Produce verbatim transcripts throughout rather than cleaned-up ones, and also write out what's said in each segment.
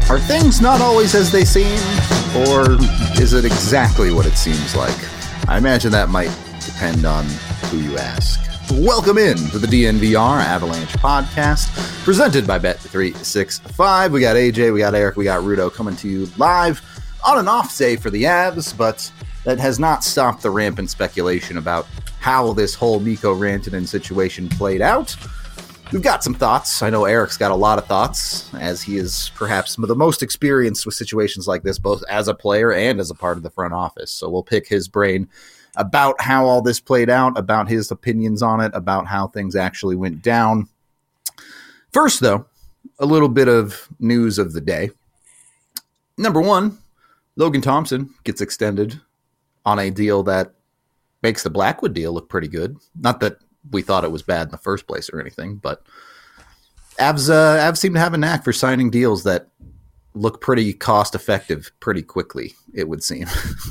Are things not always as they seem, or is it exactly what it seems like? I imagine that might depend on who you ask. Welcome in to the D N V R Avalanche podcast, presented by Bet three sixty-five. We got A J, we got Eric, we got Rudo coming to you live on an off day for the Avs, but that has not stopped the rampant speculation about how this whole Mikko Rantanen situation played out. We've got some thoughts. I know Eric's got a lot of thoughts, as he is perhaps the most experienced with situations like this, both as a player and as a part of the front office. So we'll pick his brain about how all this played out, about his opinions on it, about how things actually went down. First, though, a little bit of news of the day. Number one, Logan Thompson gets extended on a deal that makes the Blackwood deal look pretty good. Not that we thought it was bad in the first place or anything, but Avs, uh, Avs seem to have a knack for signing deals that look pretty cost effective pretty quickly, it would seem.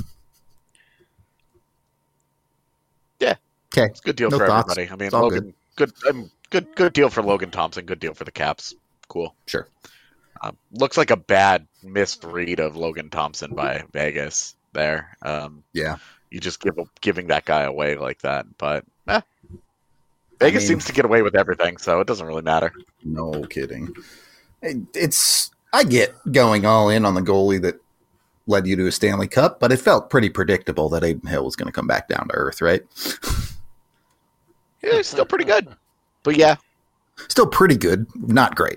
Yeah. Okay. It's a good deal no for thoughts. everybody. I mean, It's all Logan, good. Good, um, good, good deal for Logan Thompson. Good deal for the Caps. Cool. Sure. Um, looks like a bad misread of Logan Thompson by Vegas there. Um, Yeah. You just give giving that guy away like that, but eh. Vegas I mean, seems to get away with everything, so it doesn't really matter. No kidding. It- It's I get going all in on the goalie that led you to a Stanley Cup, but it felt pretty predictable that Aiden Hill was going to come back down to earth, right? Yeah, it's still pretty good, but yeah, Still pretty good, not great.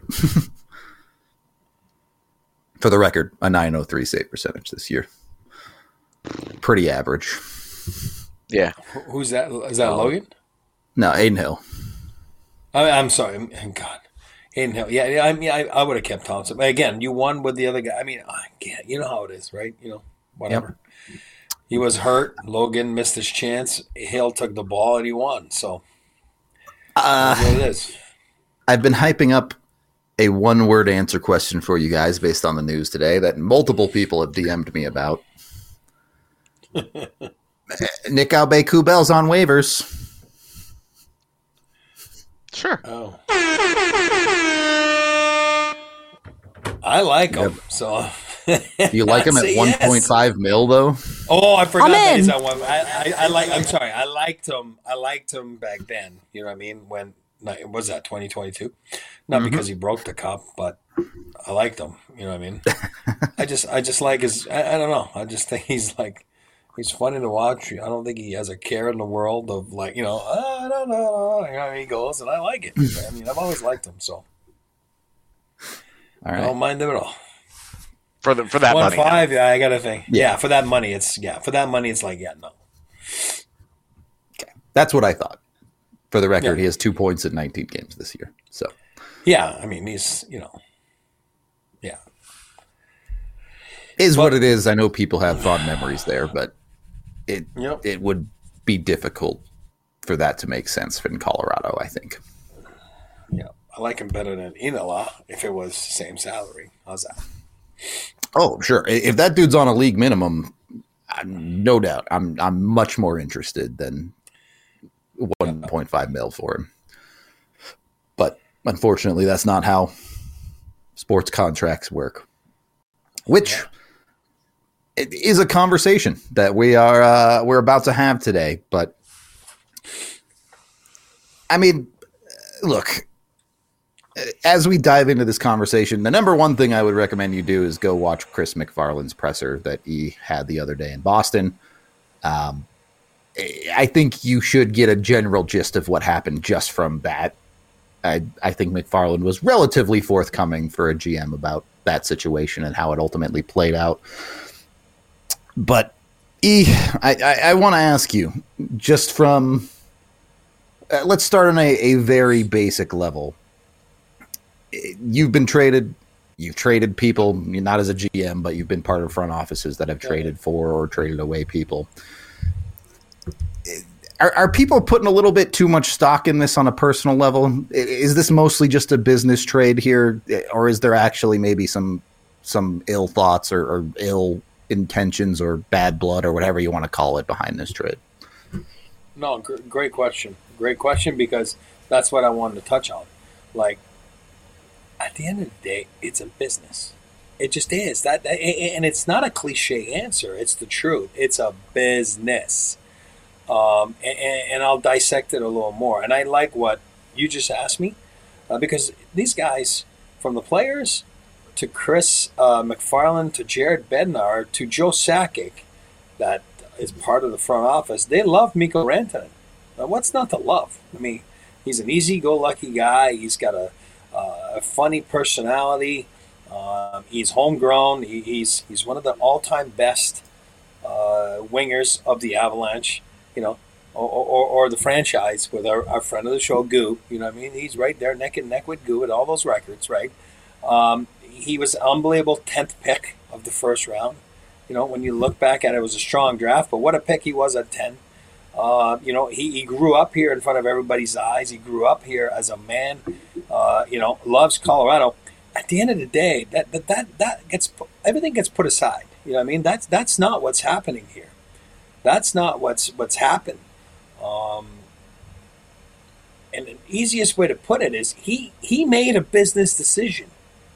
For the record, a nine oh three save percentage this year. Pretty average. yeah. Who- Who's that? Is that Oh. Logan? No, Aiden Hill. I, I'm sorry. God. Aiden Hill. Yeah, yeah, I mean, I, I would have kept Thompson. But again, you won with the other guy. I mean, I can't. You know how it is, right? You know, whatever. He was hurt. Logan missed his chance. Hill took the ball and he won. So Uh, that's what it is. I've been hyping up a one-word answer question for you guys based on the news today that multiple people have D M'd me about. Nick Aube-Kubel's on waivers. Sure. Oh. I like him. So Do you like him at Say one yes. point five mil though? Oh, I forgot I'm that in. he's at one. I, I, I like. I'm sorry. I liked him. I liked him back then. You know what I mean? When no, was that twenty twenty-two? Not Mhm. because he broke the cup, but I liked him. You know what I mean? I just, I just like his. I, I don't know. I just think he's like, he's funny to watch. I don't think he has a care in the world of like, you know, I don't know. You know, he goes, and I like it. I mean, I've always liked him, so All I right. don't mind him at all. For the for that One money. five, yeah, I gotta think. Yeah. Yeah. for that money, it's yeah, for that money, it's like yeah, no. That's what I thought. For the record, Yeah. he has two points in nineteen games this year. So Yeah, I mean, he's you know, yeah. is But- what it is. I know people have fond memories there, but it Yep. it would be difficult for that to make sense in Colorado, I think. Yeah, I like him better than Inala if it was same salary. How's that? Oh, sure. I- If that dude's on a league minimum, I- no doubt, I'm I'm much more interested than one point five mil for him. But unfortunately, that's not how sports contracts work. Which it is a conversation that we are uh, we're about to have today. But I mean, look. As we dive into this conversation, the number one thing I would recommend you do is go watch Chris McFarland's presser that he had the other day in Boston. Um, I think you should get a general gist of what happened just from that. I, I think McFarland was relatively forthcoming for a G M about that situation and how it ultimately played out. But E, I, I, I want to ask you, just from, uh, let's start on a, a very basic level. You've been traded, you've traded people, not as a G M, but you've been part of front offices that have traded for or traded away people. Are, are people putting a little bit too much stock in this on a personal level? Is this mostly just a business trade here, or is there actually maybe some some ill thoughts or, or ill intentions or bad blood or whatever you want to call it behind this trade? No, gr- great question. Great question because that's what I wanted to touch on. Like, at the end of the day, it's a business. It just is that, and it's not a cliche answer. It's the truth. It's a business, um, and, and I'll dissect it a little more. And I like what you just asked me, uh, because these guys, from the players to Chris uh, McFarland to Jared Bednar to Joe Sakic, that is part of the front office, they love Mikko Rantanen. Now, what's not to love? I mean, he's an easy-go-lucky guy. He's got a, uh, a funny personality. Um, he's homegrown. He, he's he's one of the all-time best uh, wingers of the Avalanche, you know, or, or, or the franchise with our, our friend of the show, Goo. You know what I mean? He's right there neck and neck with Goo at all those records, right? Um, he was an unbelievable tenth pick of the first round. You know, when you look back at it, it was a strong draft, but what a pick he was at ten. Uh, you know, he, he grew up here in front of everybody's eyes. He grew up here as a man, uh, you know, loves Colorado. At the end of the day, that that that, that gets put, everything gets put aside. You know what I mean? That's that's not what's happening here. That's not what's what's happened. Um, and the easiest way to put it is he he made a business decision,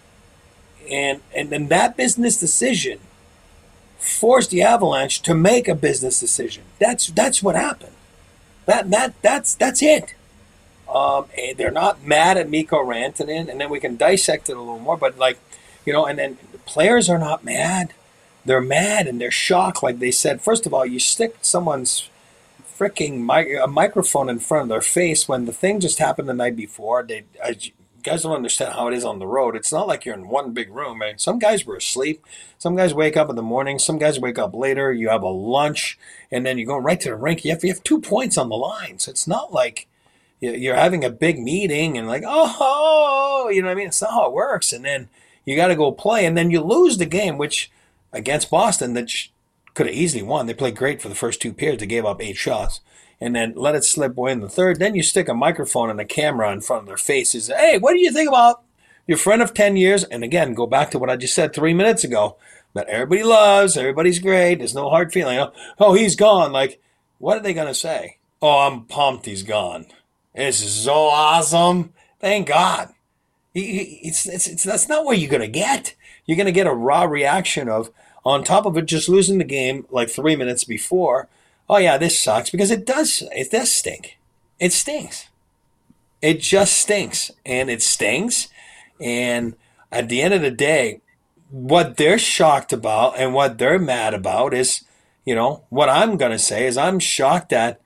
and and then that business decision forced the Avalanche to make a business decision. That's that's what happened. That that that's that's it. Um, and they're not mad at Mikko Rantanen, and then we can dissect it a little more. But like, you know, and then the players are not mad. They're mad and they're shocked. Like they said, first of all, you stick someone's freaking mic- a microphone in front of their face when the thing just happened the night before. They, I, you guys don't understand how it is on the road. It's not like you're in one big room. Man. Some guys were asleep. Some guys wake up in the morning. Some guys wake up later. You have a lunch, and then you go right to the rink. You have, you have two points on the line. So it's not like you're having a big meeting and like, oh, you know what I mean? It's not how it works. And then you got to go play, and then you lose the game, which against Boston that could have easily won. They played great for the first two periods. They gave up eight shots, and then let it slip away in the third. Then you stick a microphone and a camera in front of their faces. Hey, what do you think about your friend of ten years? And again, go back to what I just said three minutes ago, that everybody loves, everybody's great, there's no hard feeling. Oh, he's gone. Like, what are they going to say? Oh, I'm pumped he's gone. This is so awesome. Thank God. It's, it's, it's, that's not what you're going to get. You're going to get a raw reaction of, on top of it, just losing the game like three minutes before. Oh, yeah, this sucks. Because it does. It does stink. It stinks. It just stinks. And it stings. And at the end of the day, what they're shocked about and what they're mad about is, you know, what I'm going to say is I'm shocked that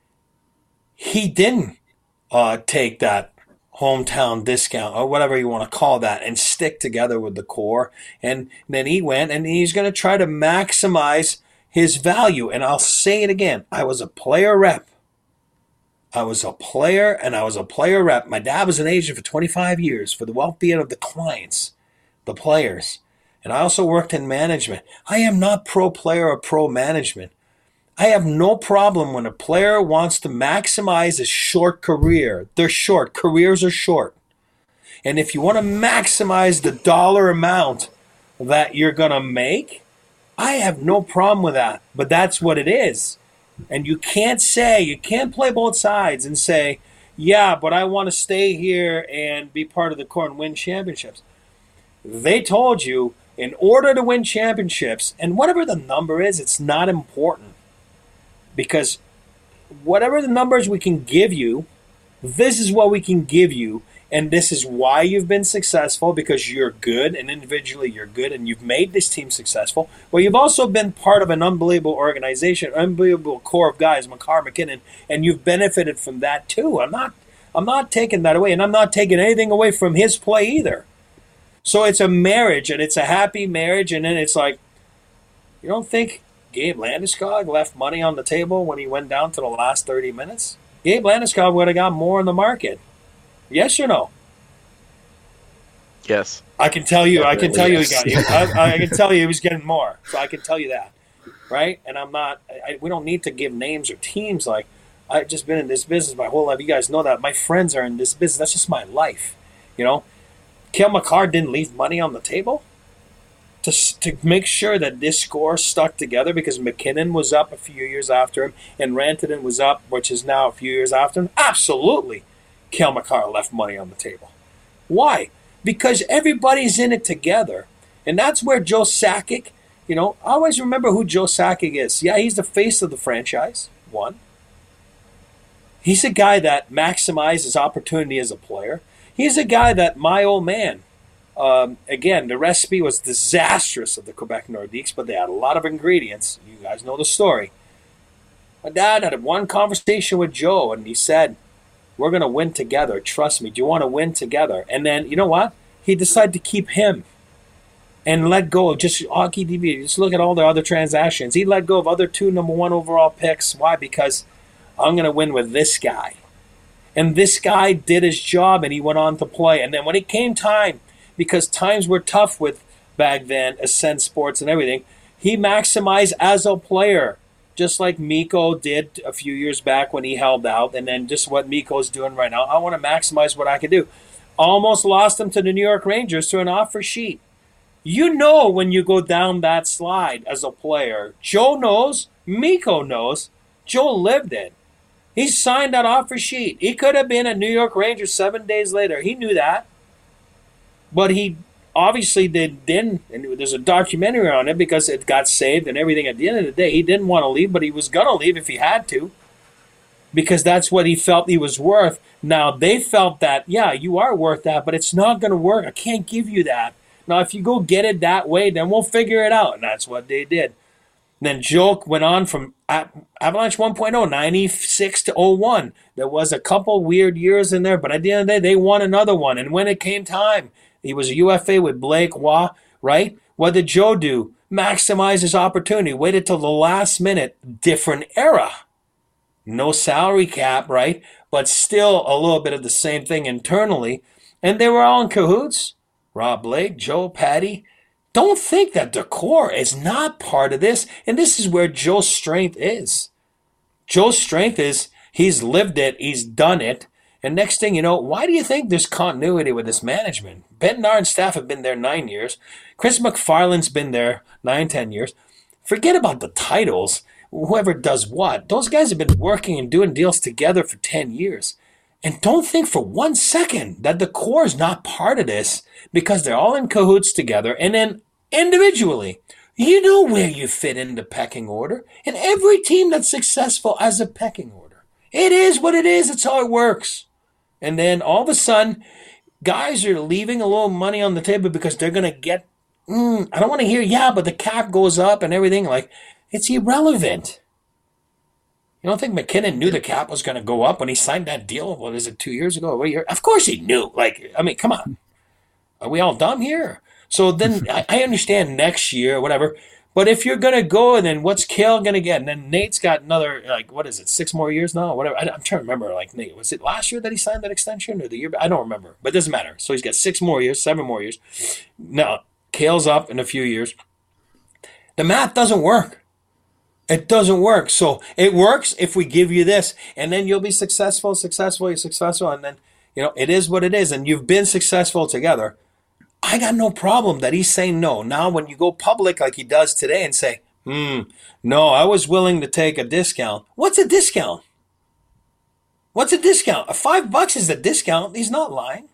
he didn't Uh, take that hometown discount or whatever you want to call that and stick together with the core. And then he went and he's going to try to maximize his value. And I'll say it again. I was a player rep. I was a player and I was a player rep. My dad was an agent for twenty-five years for the well-being of the clients, the players. And I also worked in management. I am not pro player or pro management. I have no problem when a player wants to maximize a short career. They're short. Careers are short. And if you want to maximize the dollar amount that you're going to make, I have no problem with that. But that's what it is. And you can't say, you can't play both sides and say, yeah, but I want to stay here and be part of the core and win championships. They told you in order to win championships, and whatever the number is, it's not important. Because whatever the numbers we can give you, this is what we can give you, and this is why you've been successful, because you're good, and individually you're good, and you've made this team successful. But you've also been part of an unbelievable organization, unbelievable core of guys, Makar, MacKinnon, and you've benefited from that too. I'm not, I'm not taking that away, and I'm not taking anything away from his play either. So it's a marriage, and it's a happy marriage, and then it's like, you don't think Gabe Landeskog left money on the table when he went down to the last thirty minutes? Gabe Landeskog would have got more in the market. Yes or no? Yes. I can tell you. I can tell yes. you he got. I, I can tell you he was getting more. So I can tell you that, right? And I'm not. I, we don't need to give names or teams. Like, I've just been in this business my whole life. You guys know that. My friends are in this business. That's just my life. You know, Cale Makar didn't leave money on the table to to make sure that this score stuck together, because MacKinnon was up a few years after him and Rantanen was up, which is now a few years after him. Absolutely, Cale Makar left money on the table. Why? Because everybody's in it together. And that's where Joe Sakic, you know, I always remember who Joe Sakic is. Yeah, he's the face of the franchise, one. He's a guy that maximizes opportunity as a player. He's a guy that, my old man, um, again, the recipe was disastrous of the Quebec Nordiques, but they had a lot of ingredients. You guys know the story. My dad had one conversation with Joe, and he said, we're going to win together. Trust me. Do you want to win together? And then, you know what? He decided to keep him and let go of just Hockey D B. Just look at all the other transactions. He let go of other two number one overall picks. Why? Because I'm going to win with this guy. And this guy did his job, and he went on to play. And then when it came time, because times were tough with back then, Ascend Sports and everything, he maximized as a player, just like Mikko did a few years back when he held out, and then just what Mikko's doing right now. I want to maximize what I can do. Almost lost him to the New York Rangers to an offer sheet. You know when you go down that slide as a player. Joe knows. Mikko knows. Joe lived it. He signed that offer sheet. He could have been a New York Ranger seven days later. He knew that. But he obviously did, didn't. And there's a documentary on it because it got saved and everything. At the end of the day, he didn't want to leave, but he was going to leave if he had to. Because that's what he felt he was worth. Now, they felt that, yeah, you are worth that, but it's not going to work. I can't give you that. Now, if you go get it that way, then we'll figure it out. And that's what they did. Then Joe went on from Avalanche one point oh, ninety-six to oh one. There was a couple weird years in there, but at the end of the day, they won another one. And when it came time, he was a U F A with Blake Waugh, right? What did Joe do? Maximize his opportunity. Waited till the last minute. Different era. No salary cap, right? But still a little bit of the same thing internally. And they were all in cahoots. Rob Blake, Joe, Patty. Don't think that the core is not part of this. And this is where Joe's strength is. Joe's strength is he's lived it. He's done it. And next thing you know, why do you think there's continuity with this management? Bednar and staff have been there nine years. Chris McFarland's been there nine, ten years. Forget about the titles. Whoever does what. Those guys have been working and doing deals together for ten years. And don't think for one second that the core is not part of this because they're all in cahoots together. And then individually, you know where you fit in the pecking order. And every team that's successful has a pecking order. It is what it is. It's how it works. And then all of a sudden, guys are leaving a little money on the table because they're going to get, mm, I don't want to hear, yeah, but the cap goes up and everything. Like, it's irrelevant. You don't think McKinnon knew the cap was going to go up when he signed that deal? What is it, two years ago? A year? Of course he knew. Like, I mean, come on. Are we all dumb here? So then I, I understand next year, whatever. But if you're going to go, and then what's Kale going to get? And then Nate's got another, like, what is it, six more years now? Whatever. I, I'm trying to remember, like, Nate, was it last year that he signed that extension or the year? I don't remember. But it doesn't matter. So he's got six more years, seven more years. Now, Kale's up in a few years. The math doesn't work. It doesn't work. So it works if we give you this, and then you'll be successful, successful, you're successful, and then, you know, it is what it is, and you've been successful together. I got no problem that he's saying no. Now, when you go public like he does today and say, hmm, no, I was willing to take a discount. What's a discount? What's a discount? A five bucks is a discount. He's not lying.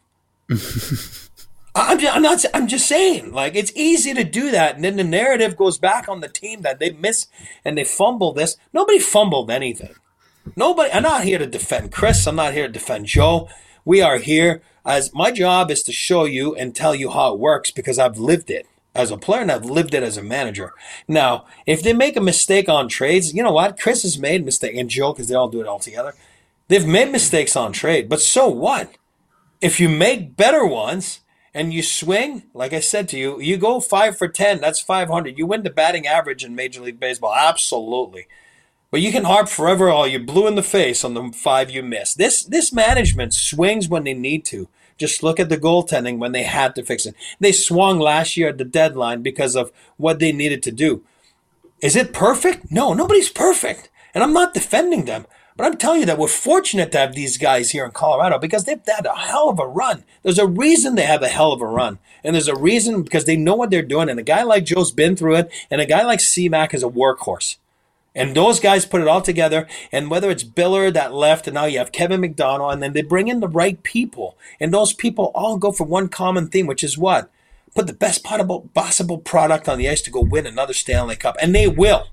I'm just, I'm not. I'm just saying. Like, it's easy to do that, and then the narrative goes back on the team that they miss and they fumble this. Nobody fumbled anything. Nobody. I'm not here to defend Chris. I'm not here to defend Joe. We are here as my job is to show you and tell you how it works because I've lived it as a player and I've lived it as a manager. Now, if they make a mistake on trades, you know what? Chris has made a mistake, and Joe, because they all do it all together. They've made mistakes on trade, but so what? If you make better ones. And you swing, like I said to you, you go five for ten, that's five hundred. You win the batting average in Major League Baseball, absolutely. But you can harp forever, oh, you're blue in the face on the five you missed. This this management swings when they need to. Just look at the goaltending when they had to fix it. They swung last year at the deadline because of what they needed to do. Is it perfect? No, nobody's perfect. And I'm not defending them. But I'm telling you that we're fortunate to have these guys here in Colorado because they've had a hell of a run. There's a reason they have a hell of a run. And there's a reason because they know what they're doing. And a guy like Joe's been through it. And a guy like C-Mac is a workhorse. And those guys put it all together. And whether it's Biller that left and now you have Kevin McDonald. And then they bring in the right people. And those people all go for one common theme, which is what? put the best possible, possible product on the ice to go win another Stanley Cup. And they will.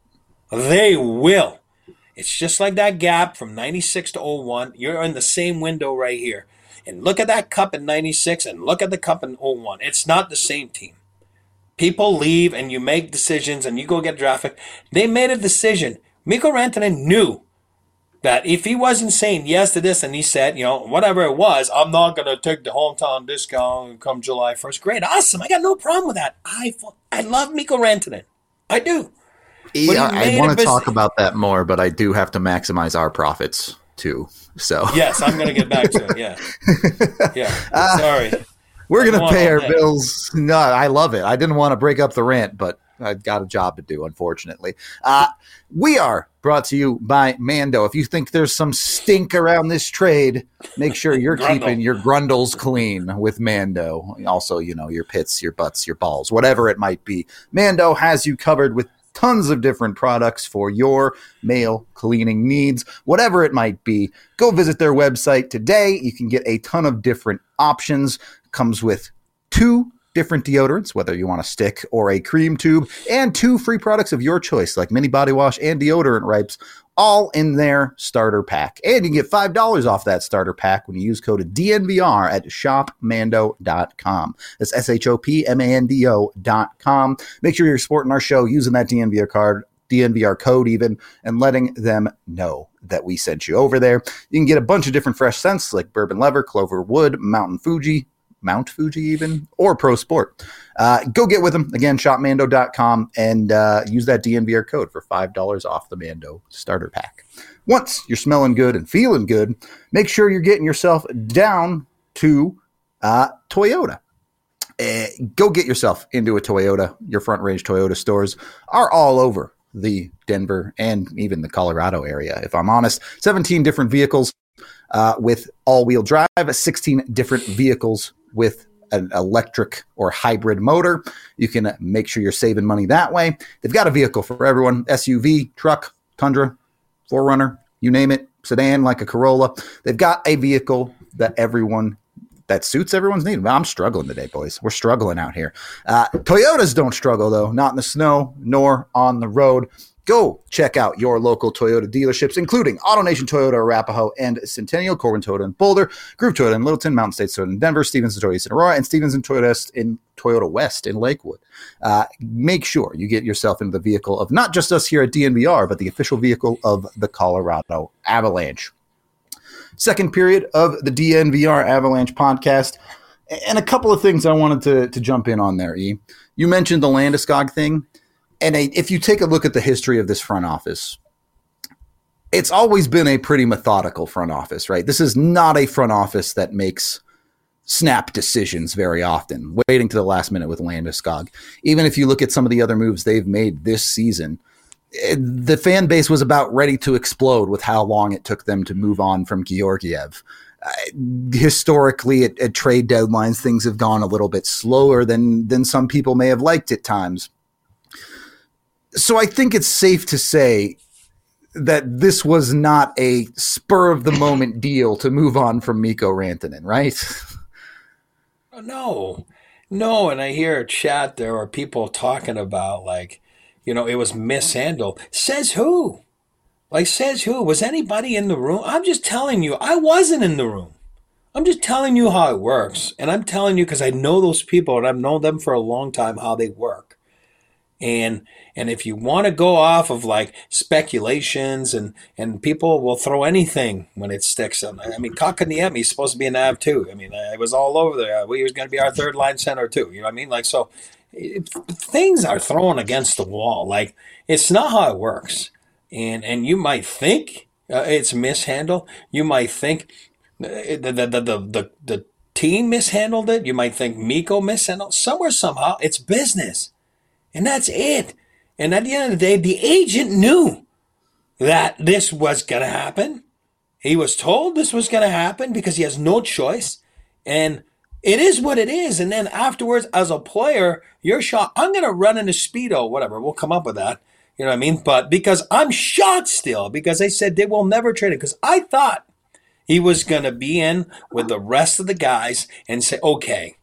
They will. It's just like that gap from ninety-six to oh one. You're in the same window right here. And look at that cup in ninety-six and look at the cup in oh one. It's not the same team. People leave and you make decisions and you go get drafted. They made a decision. Mikko Rantanen knew that if he wasn't saying yes to this and he said, you know, whatever it was, I'm not going to take the hometown discount come July first. Great, awesome. I got no problem with that. I, I love Mikko Rantanen. I do. Yeah, I want to talk about that more, but I do have to maximize our profits too. So yes, I'm going to get back to it. Yeah. Yeah. Uh, Sorry. We're going to pay our bills. No, I love it. I didn't want to break up the rant, but I've got a job to do, unfortunately. Uh, we are brought to you by Mando. If you think there's some stink around this trade, make sure you're keeping your grundles clean with Mando. Also, you know, your pits, your butts, your balls, whatever it might be. Mando has you covered with tons of different products for your male cleaning needs, whatever it might be. Go visit their website today. You can get a ton of different options. Comes with two different deodorants, whether you want a stick or a cream tube, and two free products of your choice, like mini body wash and deodorant wipes, all in their starter pack. And you can get five dollars off that starter pack when you use code D N V R at shop mando dot com. That's S H O P M A N D O dot com. Make sure you're supporting our show using that D N V R card, D N V R code even, and letting them know that we sent you over there. You can get a bunch of different fresh scents like Bourbon Leather, Clover Wood, Mountain Fuji, Mount Fuji even, or Pro Sport. Uh, go get with them. Again, shop mando dot com and uh, use that D N V R code for five dollars off the Mando starter pack. Once you're smelling good and feeling good, make sure you're getting yourself down to uh, Toyota. Uh, go get yourself into a Toyota. Your Front Range Toyota stores are all over the Denver and even the Colorado area, if I'm honest. seventeen different vehicles uh, with all-wheel drive, sixteen different vehicles with an electric or hybrid motor. You can make sure you're saving money that way. They've got a vehicle for everyone: S U V, truck, Tundra, four runner, you name it, sedan like a Corolla. They've got a vehicle that everyone that suits everyone's need. I'm struggling today, boys. We're struggling out here. Uh, Toyotas don't struggle, though, not in the snow nor on the road. Go check out your local Toyota dealerships, including AutoNation Toyota Arapahoe and Centennial, Corbin Toyota in Boulder, Groove Toyota in Littleton, Mountain States Toyota in Denver, Stevenson Toyota in Aurora, and Stevenson Toyota in Toyota West in Lakewood. Uh, make sure you get yourself into the vehicle of not just us here at D N V R, but the official vehicle of the Colorado Avalanche. Second period of the D N V R Avalanche podcast, and a couple of things I wanted to, to jump in on there, E. You mentioned the Landeskog thing. And a, if you take a look at the history of this front office, it's always been a pretty methodical front office, right? This is not a front office that makes snap decisions very often, waiting to the last minute with Landeskog. Even if you look at some of the other moves they've made this season, it, the fan base was about ready to explode with how long it took them to move on from Georgiev. Uh, historically, at, at trade deadlines, things have gone a little bit slower than than some people may have liked at times. So I think it's safe to say that this was not a spur-of-the-moment deal to move on from Mikko Rantanen, right? No. No, and I hear a chat there or people talking about, like, you know, it was mishandled. Says who? Like, says who? Was anybody in the room? I'm just telling you, I wasn't in the room. I'm just telling you how it works. And I'm telling you because I know those people and I've known them for a long time, how they work. And and if you want to go off of like speculations and, and people will throw anything when it sticks. I mean, Kotkaniemi is supposed to be an A V too. I mean, it was all over there. He was going to be our third line center too. You know what I mean? Like, so it, things are thrown against the wall. Like, it's not how it works. And and you might think uh, it's mishandled. You might think the the, the the the the team mishandled it. You might think Mikko mishandled. Somewhere, somehow, it's business. And that's it. And at the end of the day, the agent knew that this was going to happen. He was told this was going to happen because he has no choice. And it is what it is. And then afterwards, as a player, you're shocked. I'm going to run in a Speedo, whatever. We'll come up with that. You know what I mean? But because I'm shocked still, because they said they will never trade it. Because I thought he was going to be in with the rest of the guys and say, okay,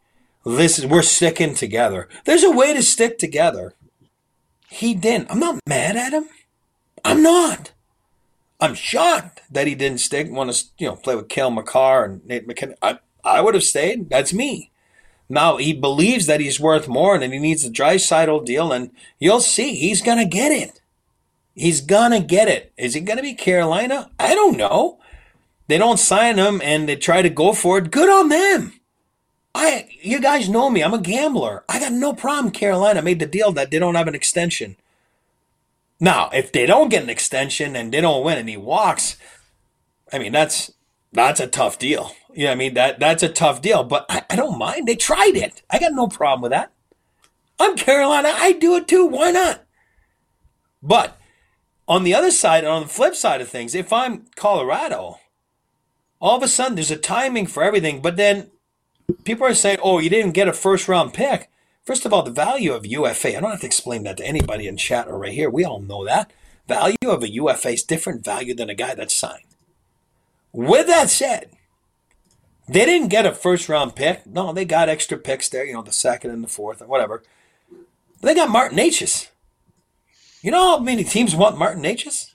this is we're sticking together. There's a way to stick together. He didn't. I'm not mad at him. I'm not. I'm shocked that he didn't stick. Want to you know play with Cale Makar and Nate McKinnon. I I would have stayed. That's me. Now he believes that he's worth more and he needs a Draisaitl deal, and you'll see he's gonna get it. He's gonna get it. Is he gonna be Carolina? I don't know. They don't sign him and they try to go for it. Good on them. I, you guys know me. I'm a gambler. I got no problem. Carolina made the deal that they don't have an extension. Now, if they don't get an extension and they don't win and he walks, I mean, that's that's a tough deal. You know what I mean? That, that's a tough deal. But I, I don't mind. They tried it. I got no problem with that. I'm Carolina. I do it too. Why not? But on the other side, on the flip side of things, if I'm Colorado, all of a sudden there's a timing for everything. But then people are saying, oh, you didn't get a first-round pick. First of all, the value of U F A, I don't have to explain that to anybody in chat or right here. We all know that. Value of a U F A is different value than a guy that's signed. With that said, they didn't get a first-round pick. No, they got extra picks there, you know, the second and the fourth or whatever. They got Martin Necas. You know how many teams want Martin Necas?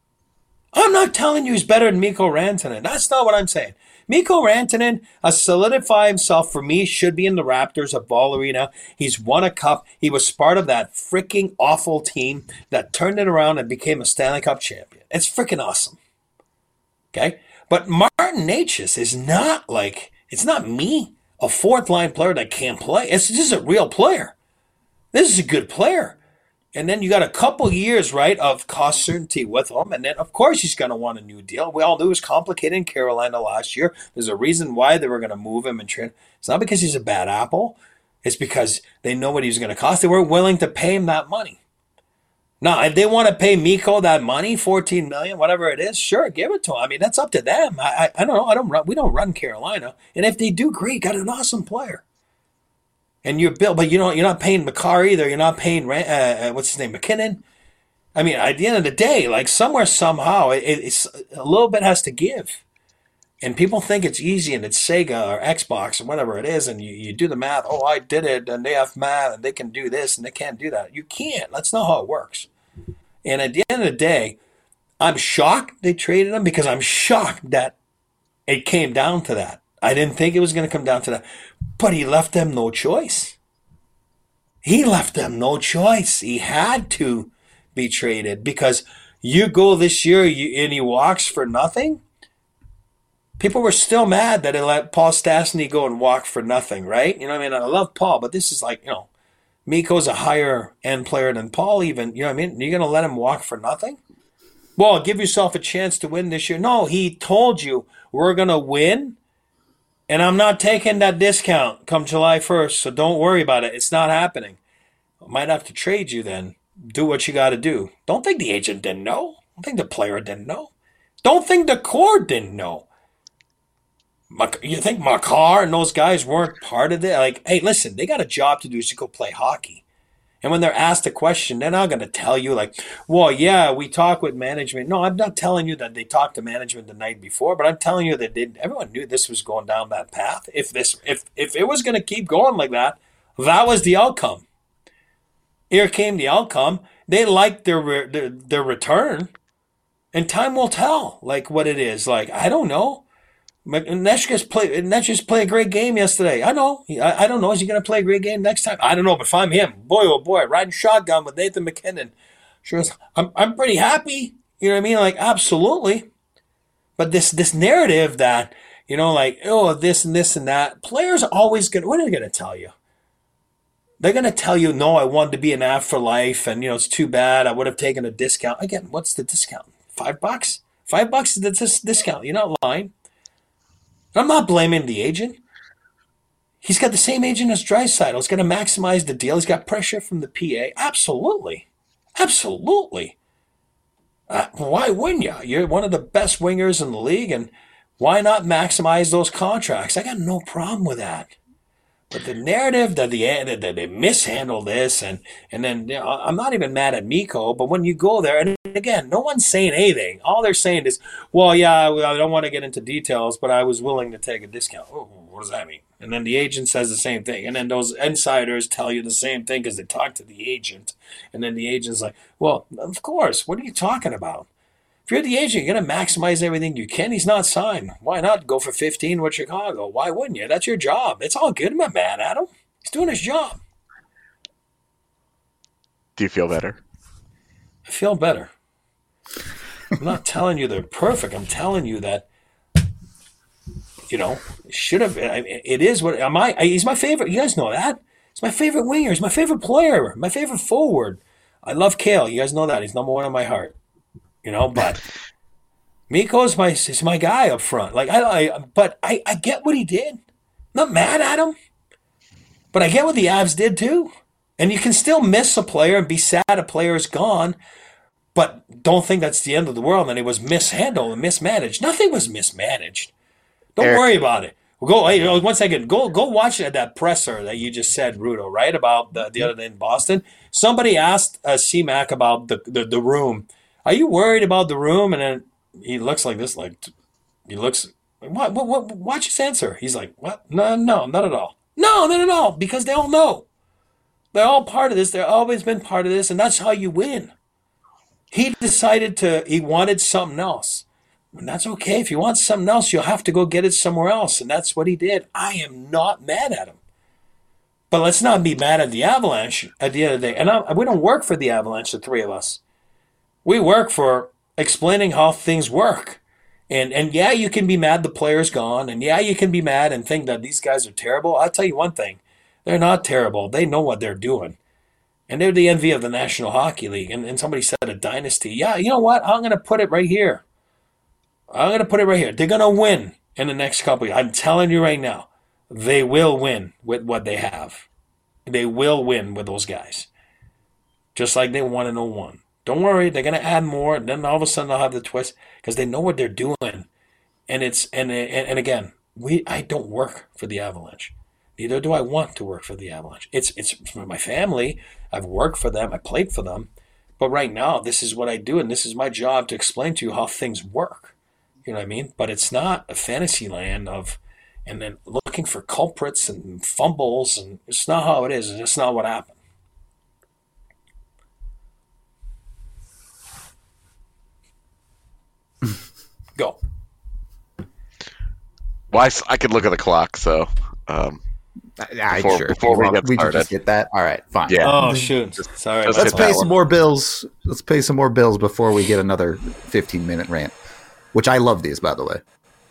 I'm not telling you he's better than Mikko Rantanen. That's not what I'm saying. Mikko Rantanen has solidified himself for me, should be in the Raptors of Ball Arena. He's won a cup. He was part of that freaking awful team that turned it around and became a Stanley Cup champion. It's freaking awesome. Okay? But Martin Necas is not like, it's not me, a fourth line player that can't play. It's just a real player. This is a good player. And then you got a couple years, right, of cost certainty with him. And then, of course, he's going to want a new deal. We all knew it was complicated in Carolina last year. There's a reason why they were going to move him and trade. It's not because he's a bad apple. It's because they know what he's going to cost. They were willing to pay him that money. Now, if they want to pay Mikko that money, fourteen million dollars, whatever it is, sure, give it to him. I mean, that's up to them. I, I, I don't know. I don't run. We don't run Carolina. And if they do, great. Got an awesome player. And you're built, but you know you're not paying Makar either. You're not paying uh, what's his name, McKinnon. I mean, at the end of the day, like somewhere somehow, it, it's a little bit has to give. And people think it's easy, and it's Sega or Xbox or whatever it is, and you, you do the math. Oh, I did it, and they have math, and they can do this, and they can't do that. You can't. That's not how it works. And at the end of the day, I'm shocked they traded him because I'm shocked that it came down to that. I didn't think it was going to come down to that. But he left them no choice. He left them no choice. He had to be traded because you go this year you, and he walks for nothing. People were still mad that they let Paul Stastny go and walk for nothing, right? You know what I mean? I love Paul, but this is like, you know, Mikko's a higher end player than Paul even. You know what I mean? You're going to let him walk for nothing? Well, give yourself a chance to win this year. No, he told you we're going to win. And I'm not taking that discount come July first, so don't worry about it. It's not happening. I might have to trade you then. Do what you got to do. Don't think the agent didn't know. Don't think the player didn't know. Don't think the core didn't know. You think Makar and those guys weren't part of it? Like, hey, listen, they got a job to do to go play hockey. And when they're asked a question, they're not going to tell you like, well, yeah, we talk with management. No, I'm not telling you that they talked to management the night before, but I'm telling you that they, everyone knew this was going down that path. If this, if if it was going to keep going like that, that was the outcome. Here came the outcome. They liked their their, their return, and time will tell, like what it is. Like I don't know. Neshka's play. Neshka's play a great game yesterday. I know. I, I don't know. Is he going to play a great game next time? I don't know. But if I'm him, boy, oh boy, riding shotgun with Nathan McKinnon, sure, I'm I'm pretty happy. You know what I mean? Like absolutely. But this this narrative that you know, like oh, this and this and that, players are always going. What are they going to tell you? They're going to tell you, no, I wanted to be an Av for life, and you know it's too bad. I would have taken a discount. Again, what's the discount? Five bucks. Five bucks is the dis- discount. You're not lying. I'm not blaming the agent. He's got the same agent as Draisaitl. He's going to maximize the deal. He's got pressure from the P A. Absolutely. Absolutely. Uh, why wouldn't you? You're one of the best wingers in the league, and why not maximize those contracts? I got no problem with that. But the narrative that, the, that they mishandle this, and, and then you know, I'm not even mad at Mikko, but when you go there, and again, no one's saying anything. All they're saying is, well, yeah, I don't want to get into details, but I was willing to take a discount. Oh, what does that mean? And then the agent says the same thing. And then those insiders tell you the same thing because they talk to the agent. And then the agent's like, well, of course. What are you talking about? If you're the agent, you're going to maximize everything you can. He's not signed. Why not go for fifteen with Chicago? Why wouldn't you? That's your job. It's all good. I'm not mad at him. He's doing his job. Do you feel better? I feel better. I'm not telling you they're perfect. I'm telling you that, you know, it should have. It is what am I? He's my favorite. You guys know that. He's my favorite winger. He's my favorite player. My favorite forward. I love Kale. You guys know that. He's number one in my heart. You know, but Mikko's my is my guy up front. Like I, I but I, I get what he did. I'm not mad at him, but I get what the Avs did too. And you can still miss a player and be sad a player is gone, but don't think that's the end of the world. And it was mishandled and mismanaged. Nothing was mismanaged. Don't Eric. worry about it. Well, go hey, one second. Go go watch that presser that you just said, Rudo, right about the, the other day in Boston. Somebody asked uh, C Mac about the, the the room. Are you worried about the room? And then he looks like this, like he looks. What? What? What? Watch his answer. He's like, what? No, no, not at all. No, not at all. Because they all know. They're all part of this. They've always been part of this, and that's how you win. He decided to. He wanted something else. And that's okay. If you want something else, you'll have to go get it somewhere else. And that's what he did. I am not mad at him. But let's not be mad at the Avalanche at the end of the day. And I, we don't work for the Avalanche, the three of us. We work for explaining how things work. And and yeah, you can be mad the player's gone. And yeah, you can be mad and think that these guys are terrible. I'll tell you one thing. They're not terrible. They know what they're doing. And they're the envy of the National Hockey League. And, and somebody said a dynasty. Yeah, you know what? I'm going to put it right here. I'm going to put it right here. They're going to win in the next couple of years. I'm telling you right now, they will win with what they have. They will win with those guys. Just like they won in oh one. Don't worry, they're going to add more, and then all of a sudden they'll have the twist because they know what they're doing. And it's and and, and again, we I don't work for the Avalanche. Neither do I want to work for the Avalanche. It's it's for my family. I've worked for them. I played for them. But right now, this is what I do, and this is my job to explain to you how things work. You know what I mean? But it's not a fantasy land of, and then looking for culprits and fumbles, and it's not how it is. It's just not what happened. Go. Well, I, s- I could look at the clock, so um, I, Before- sure. before we Well, get we can started. just get that. All right, fine. Yeah. Oh, shoot. Sorry. just Let's hit pay that some one. more bills. Let's pay some more bills before we get another fifteen minute rant. Which I love these, by the way.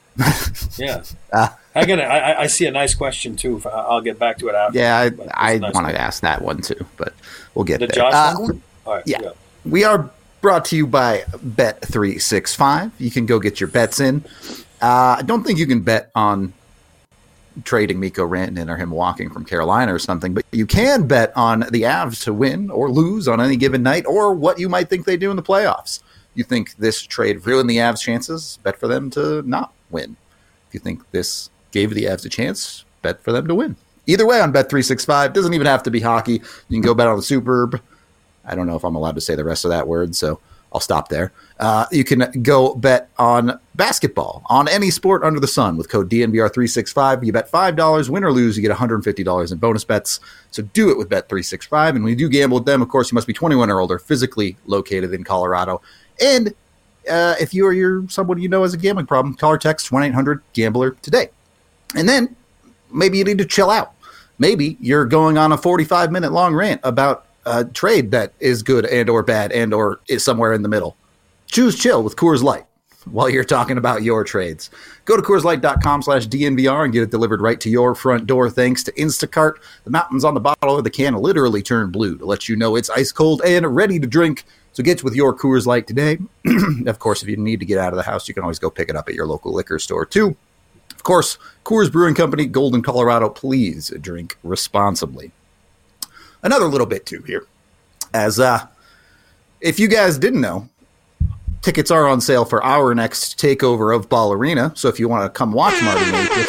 Yeah. Ah. I get it. I, I see a nice question, too. I'll get back to it after. Yeah, But it's I, I a nice want one. to ask that one too, but we'll get The there. Josh Uh, one? All right. yeah. Yeah. We are brought to you by Bet three sixty-five. You can go get your bets in. Uh, I don't think you can bet on trading Mikko Rantanen or him walking from Carolina or something, but you can bet on the Avs to win or lose on any given night, or what you might think they do in the playoffs. You think this trade ruined the Avs' chances? Bet for them to not win. If you think this gave the Avs a chance, bet for them to win. Either way on Bet three sixty-five. Doesn't even have to be hockey. You can go bet on the Superb. I don't know if I'm allowed to say the rest of that word, so I'll stop there. Uh, you can go bet on basketball, on any sport under the sun with code D N V R three sixty-five. You bet five dollars, win or lose, you get one hundred fifty dollars in bonus bets. So do it with Bet three sixty-five. And when you do gamble with them, of course, you must be twenty-one or older, physically located in Colorado. And uh, if you or you're someone you know has a gambling problem, call or text one eight hundred gambler today. And then maybe you need to chill out. Maybe you're going on a forty-five minute long rant about a trade that is good and or bad and or is somewhere in the middle. Choose chill with Coors Light while you're talking about your trades. Go to CoorsLight.com slash DNVR and get it delivered right to your front door thanks to Instacart. The mountains on the bottle of the can literally turn blue to let you know it's ice cold and ready to drink. So get with your Coors Light today. Of course, if you need to get out of the house, you can always go pick it up at your local liquor store too. Of course, Coors Brewing Company, Golden, Colorado. Please drink responsibly. Another little bit too here, as uh, if you guys didn't know, tickets are on sale for our next takeover of Ball Arena. So if you want to come watch Marty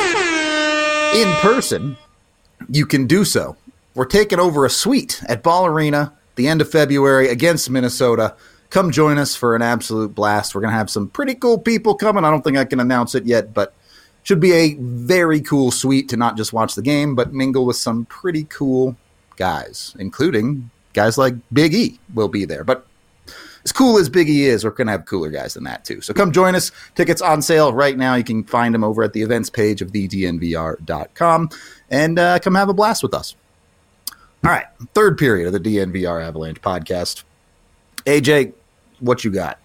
Naked in person, you can do so. We're taking over a suite at Ball Arena the end of February against Minnesota. Come join us for an absolute blast. We're going to have some pretty cool people coming. I don't think I can announce it yet, but Should be a very cool suite to not just watch the game, but mingle with some pretty cool guys, including guys like Big E will be there. But as cool as Big E is, we're going to have cooler guys than that, too. So come join us. Tickets on sale right now. You can find them over at the events page of the D N V R dot com. And uh, come have a blast with us. All right, third period of the D N V R Avalanche podcast. A J, what you got?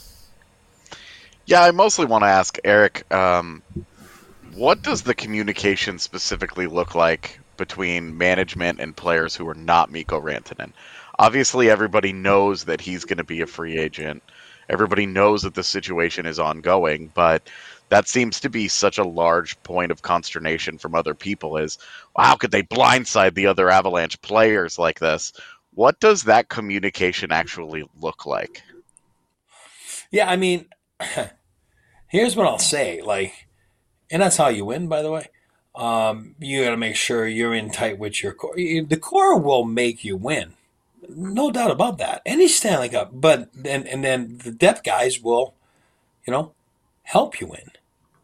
Yeah, I mostly want to ask Eric, um, what does the communication specifically look like between management and players who are not Mikko Rantanen? Obviously, everybody knows that he's going to be a free agent. Everybody knows that the situation is ongoing, but that seems to be such a large point of consternation from other people is, well, how could they blindside the other Avalanche players like this? What does that communication actually look like? Yeah, I mean, here's what I'll say. Like, and that's how you win, by the way. Um, you got to make sure you're in tight with your core. The core will make you win. No doubt about that. Any Stanley Cup. But, and, and then the depth guys will, you know, help you win.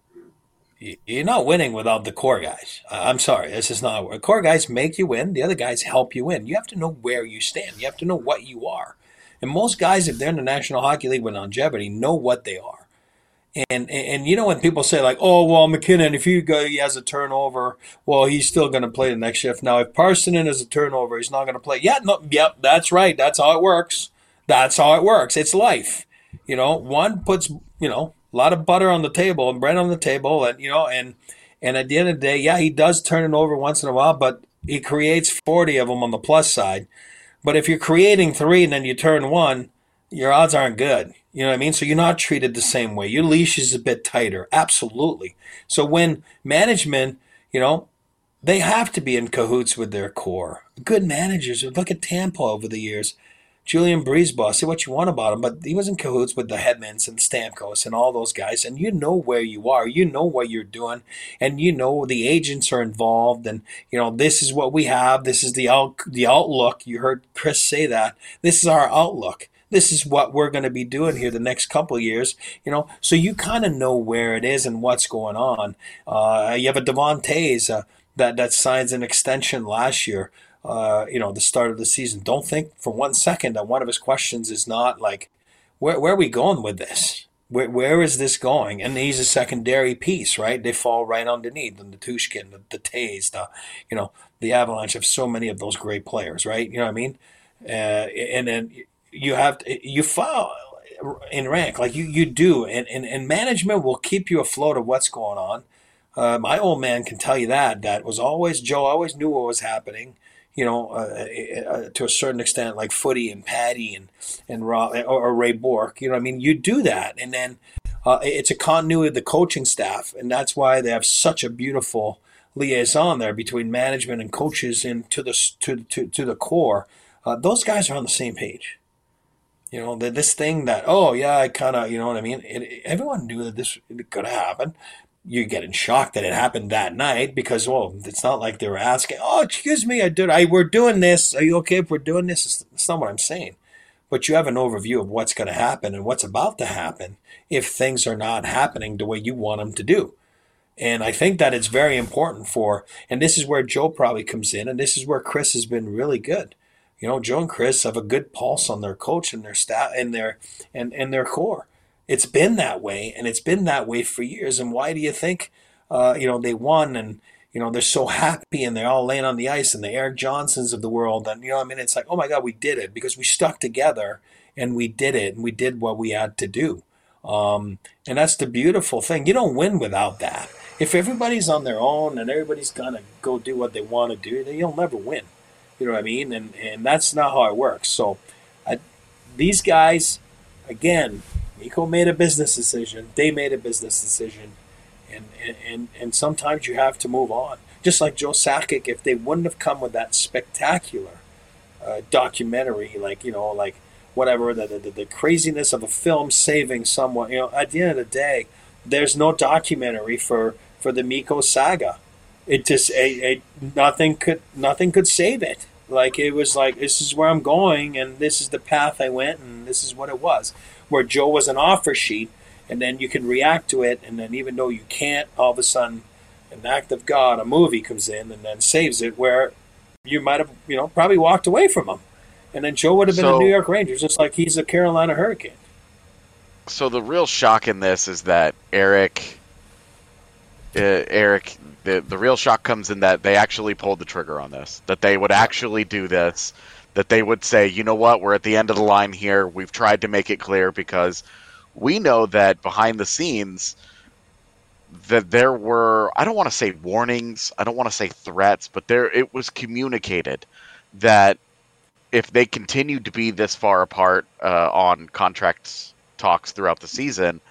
You're not winning without the core guys. I'm sorry. This is not – core guys make you win. The other guys help you win. You have to know where you stand. You have to know what you are. And most guys, if they're in the National Hockey League with longevity, know what they are. And, and, and you know when people say like, oh, well, McKinnon, if he, go, he has a turnover, well, he's still going to play the next shift. Now, if Parssinen has a turnover, he's not going to play. Yeah, no, yep, that's right. That's how it works. That's how it works. It's life. You know, one puts, you know, a lot of butter on the table and bread on the table. And, you know, and, and at the end of the day, yeah, he does turn it over once in a while, but he creates forty of them on the plus side. But if you're creating three and then you turn one, your odds aren't good. You know what I mean? So you're not treated the same way. Your leash is a bit tighter. Absolutely. So when management, you know, they have to be in cahoots with their core. Good managers. Look at Tampa over the years. Julian Breezeball, say what you want about him, but he was in cahoots with the Hedmans and Stamkos and all those guys, and you know where you are. You know what you're doing, and you know the agents are involved, and, you know, this is what we have. This is the out, the outlook. You heard Chris say that. This is our outlook. This is what we're going to be doing here the next couple of years, you know. So you kind of know where it is and what's going on. Uh, you have a Devon Toews uh, that, that signs an extension last year. Uh, you know, the start of the season. Don't think for one second that one of his questions is not like, where, where are we going with this? Where, where is this going? And he's a secondary piece, right? They fall right underneath. And the Tushkin, the, the Tays, the, you know, the Avalanche have so many of those great players, right? You know what I mean? Uh, and then you have to, you fall in rank like you, you do. And, and, and management will keep you afloat of what's going on. Uh, my old man can tell you that. That was always, Joe always knew what was happening. You know, uh, uh, to a certain extent, like Footy and Patty and and Rob, or, or Ray Bork. You know what I mean? You do that, and then uh, it's a continuity of the coaching staff, and that's why they have such a beautiful liaison there between management and coaches and to the to to, to the core. Uh, those guys are on the same page. You know, this thing that, oh yeah, I kind of, you know what I mean? It, everyone knew that this could happen. You're getting shocked that it happened that night because, well, it's not like they were asking, oh, excuse me, I did, I we're doing this. Are you okay if we're doing this? It's, it's not what I'm saying. But you have an overview of what's going to happen and what's about to happen if things are not happening the way you want them to do. And I think that it's very important for, and this is where Joe probably comes in, and this is where Chris has been really good. You know, Joe and Chris have a good pulse on their coach and their staff and their and, and their core. It's been that way, and it's been that way for years. And why do you think, uh, you know, they won and, you know, they're so happy and they're all laying on the ice and the Eric Johnsons of the world. And, you know, I mean, it's like, oh, my God, we did it because we stuck together and we did it and we did what we had to do. Um, and that's the beautiful thing. You don't win without that. If everybody's on their own and everybody's going to go do what they want to do, then you'll never win. You know what I mean? And, and that's not how it works. So I, these guys, again, Mikko made a business decision. They made a business decision. And, and, and sometimes you have to move on. Just like Joe Sakic, if they wouldn't have come with that spectacular uh, documentary, like, you know, like whatever, the, the, the craziness of a film saving someone, you know, at the end of the day, there's no documentary for, for the Mikko saga. It just, a, a, nothing could, nothing could save it. Like, it was like, this is where I'm going, and this is the path I went, and this is what it was. Where Joe was an offer sheet, and then you can react to it, and then even though you can't, all of a sudden, an act of God, a movie comes in and then saves it, where you might have, you know, probably walked away from him. And then Joe would have been So- a New York Rangers, just like he's a Carolina Hurricane. So the real shock in this is that Eric, uh, Eric, the the real shock comes in that they actually pulled the trigger on this. That they would actually do this. That they would say, you know what, we're at the end of the line here. We've tried to make it clear because we know that behind the scenes that there were, I don't want to say warnings, I don't want to say threats, but there it was communicated that if they continued to be this far apart uh, on contracts talks throughout the season,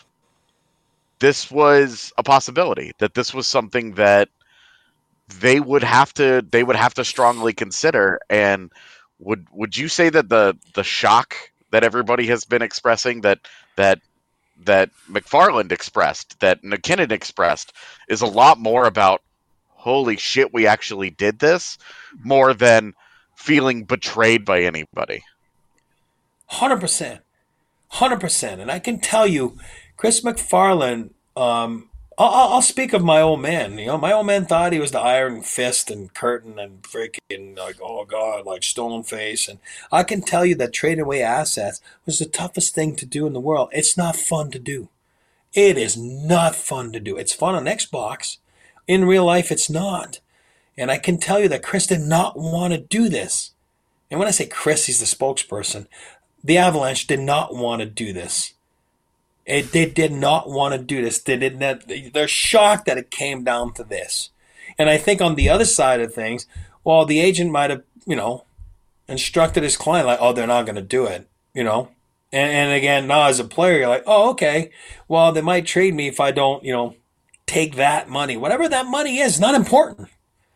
this was a possibility, that this was something that they would have to they would have to strongly consider. And would would you say that the the shock that everybody has been expressing, that that that McFarland expressed, that McKinnon expressed, is a lot more about holy shit, we actually did this, more than feeling betrayed by anybody? one hundred percent. one hundred percent. And I can tell you, Chris McFarland, um, I'll, I'll speak of my old man. You know, my old man thought he was the Iron Fist and Curtin and freaking like, oh God, like Stone Face. And I can tell you that trading away assets was the toughest thing to do in the world. It's not fun to do. It is not fun to do. It's fun on Xbox. In real life, it's not. And I can tell you that Chris did not want to do this. And when I say Chris, he's the spokesperson. The Avalanche did not want to do this. It, they did not want to do this. They did not, they're shocked that it came down to this. And I think on the other side of things, well, the agent might have, you know, instructed his client like, oh, they're not going to do it, you know. And, and again, now as a player, you're like, oh, okay, well, they might trade me if I don't, you know, take that money. Whatever that money is, not important.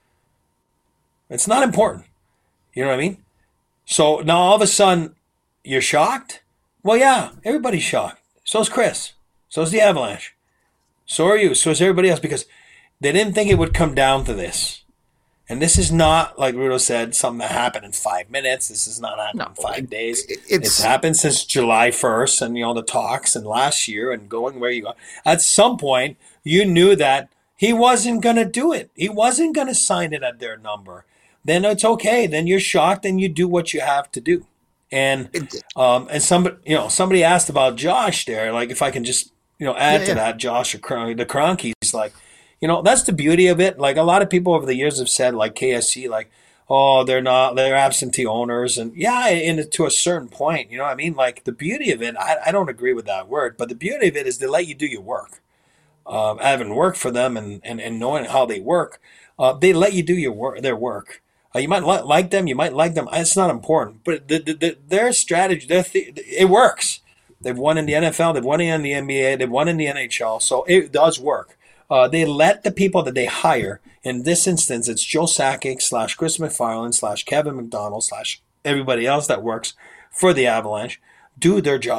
It's not important. You know what I mean? So now all of a sudden, you're shocked? Well, yeah, everybody's shocked. So's Chris. So's the Avalanche. So are you. So is everybody else, because they didn't think it would come down to this. And this is not, like Rudo said, something that happened in five minutes. This is not happening No, in five it- days. it- it's- It's happened since July first, and, you know, the talks and last year and going where you go. At some point, you knew that he wasn't going to do it. He wasn't going to sign it at their number. Then it's okay. Then you're shocked and you do what you have to do. And It- um, and somebody, you know, somebody asked about Josh there. Like, if I can just, you know, add Yeah, to yeah. that, Josh, or Cron- the Kroenkes, like, you know, that's the beauty of it. Like, a lot of people over the years have said, like K S C, like, oh, they're not, they're absentee owners, and yeah, and to a certain point, you know what I mean? Like, the beauty of it, I, I don't agree with that word, but the beauty of it is they let you do your work. Um, having worked for them and, and, and knowing how they work, uh, they let you do your work, their work. Uh, you might li- like them, you might like them. It's not important, but the, the, the, their strategy, their th- it works. They've won in the N F L, they've won in the N B A, they've won in the N H L, so it does work. Uh, they let the people that they hire, in this instance, it's Joe Sakic slash Chris McFarland slash Kevin McDonald slash everybody else that works for the Avalanche, do their job.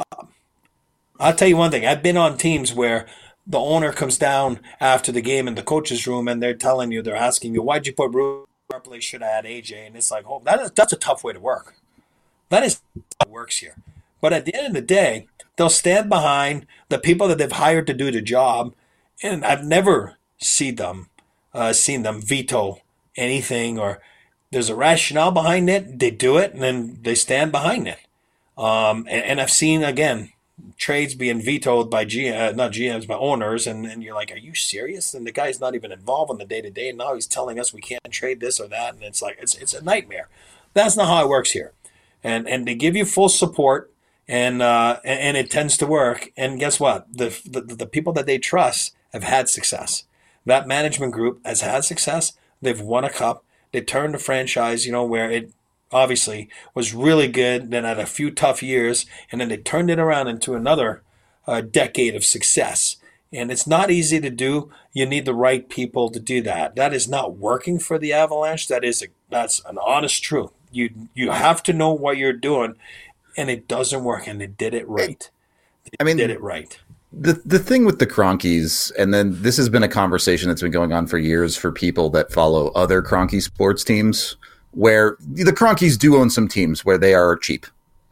I'll tell you one thing. I've been on teams where the owner comes down after the game in the coach's room and they're telling you, they're asking you, why'd you put Rudy? Probably should have had A J. And it's like, oh, that is, that's a tough way to work. That is how it works here. But at the end of the day, they'll stand behind the people that they've hired to do the job. And I've never seen them, uh, seen them veto anything, or there's a rationale behind it. They do it, and then they stand behind it. Um, and, and I've seen, again, trades being vetoed by G, uh, not G Ms, but owners, and, and you're like, are you serious? And the guy's not even involved in the day-to-day, and now he's telling us we can't trade this or that, and it's like, it's it's a nightmare. That's not how it works here. And and they give you full support, and uh, and, and it tends to work. And guess what? The, the the people that they trust have had success. That management group has had success. They've won a cup. They turned the franchise, you know, where it obviously was really good, then had a few tough years, and then they turned it around into another uh, decade of success. And it's not easy to do. You need the right people to do that. That is not working for the Avalanche. That is a, that's an honest truth. You you have to know what you're doing, and it doesn't work. And they did it right. They I mean, did it right. The the thing with the Kroenkes, and then this has been a conversation that's been going on for years for people that follow other Kroenke sports teams, where the Kroenkes do own some teams where they are cheap.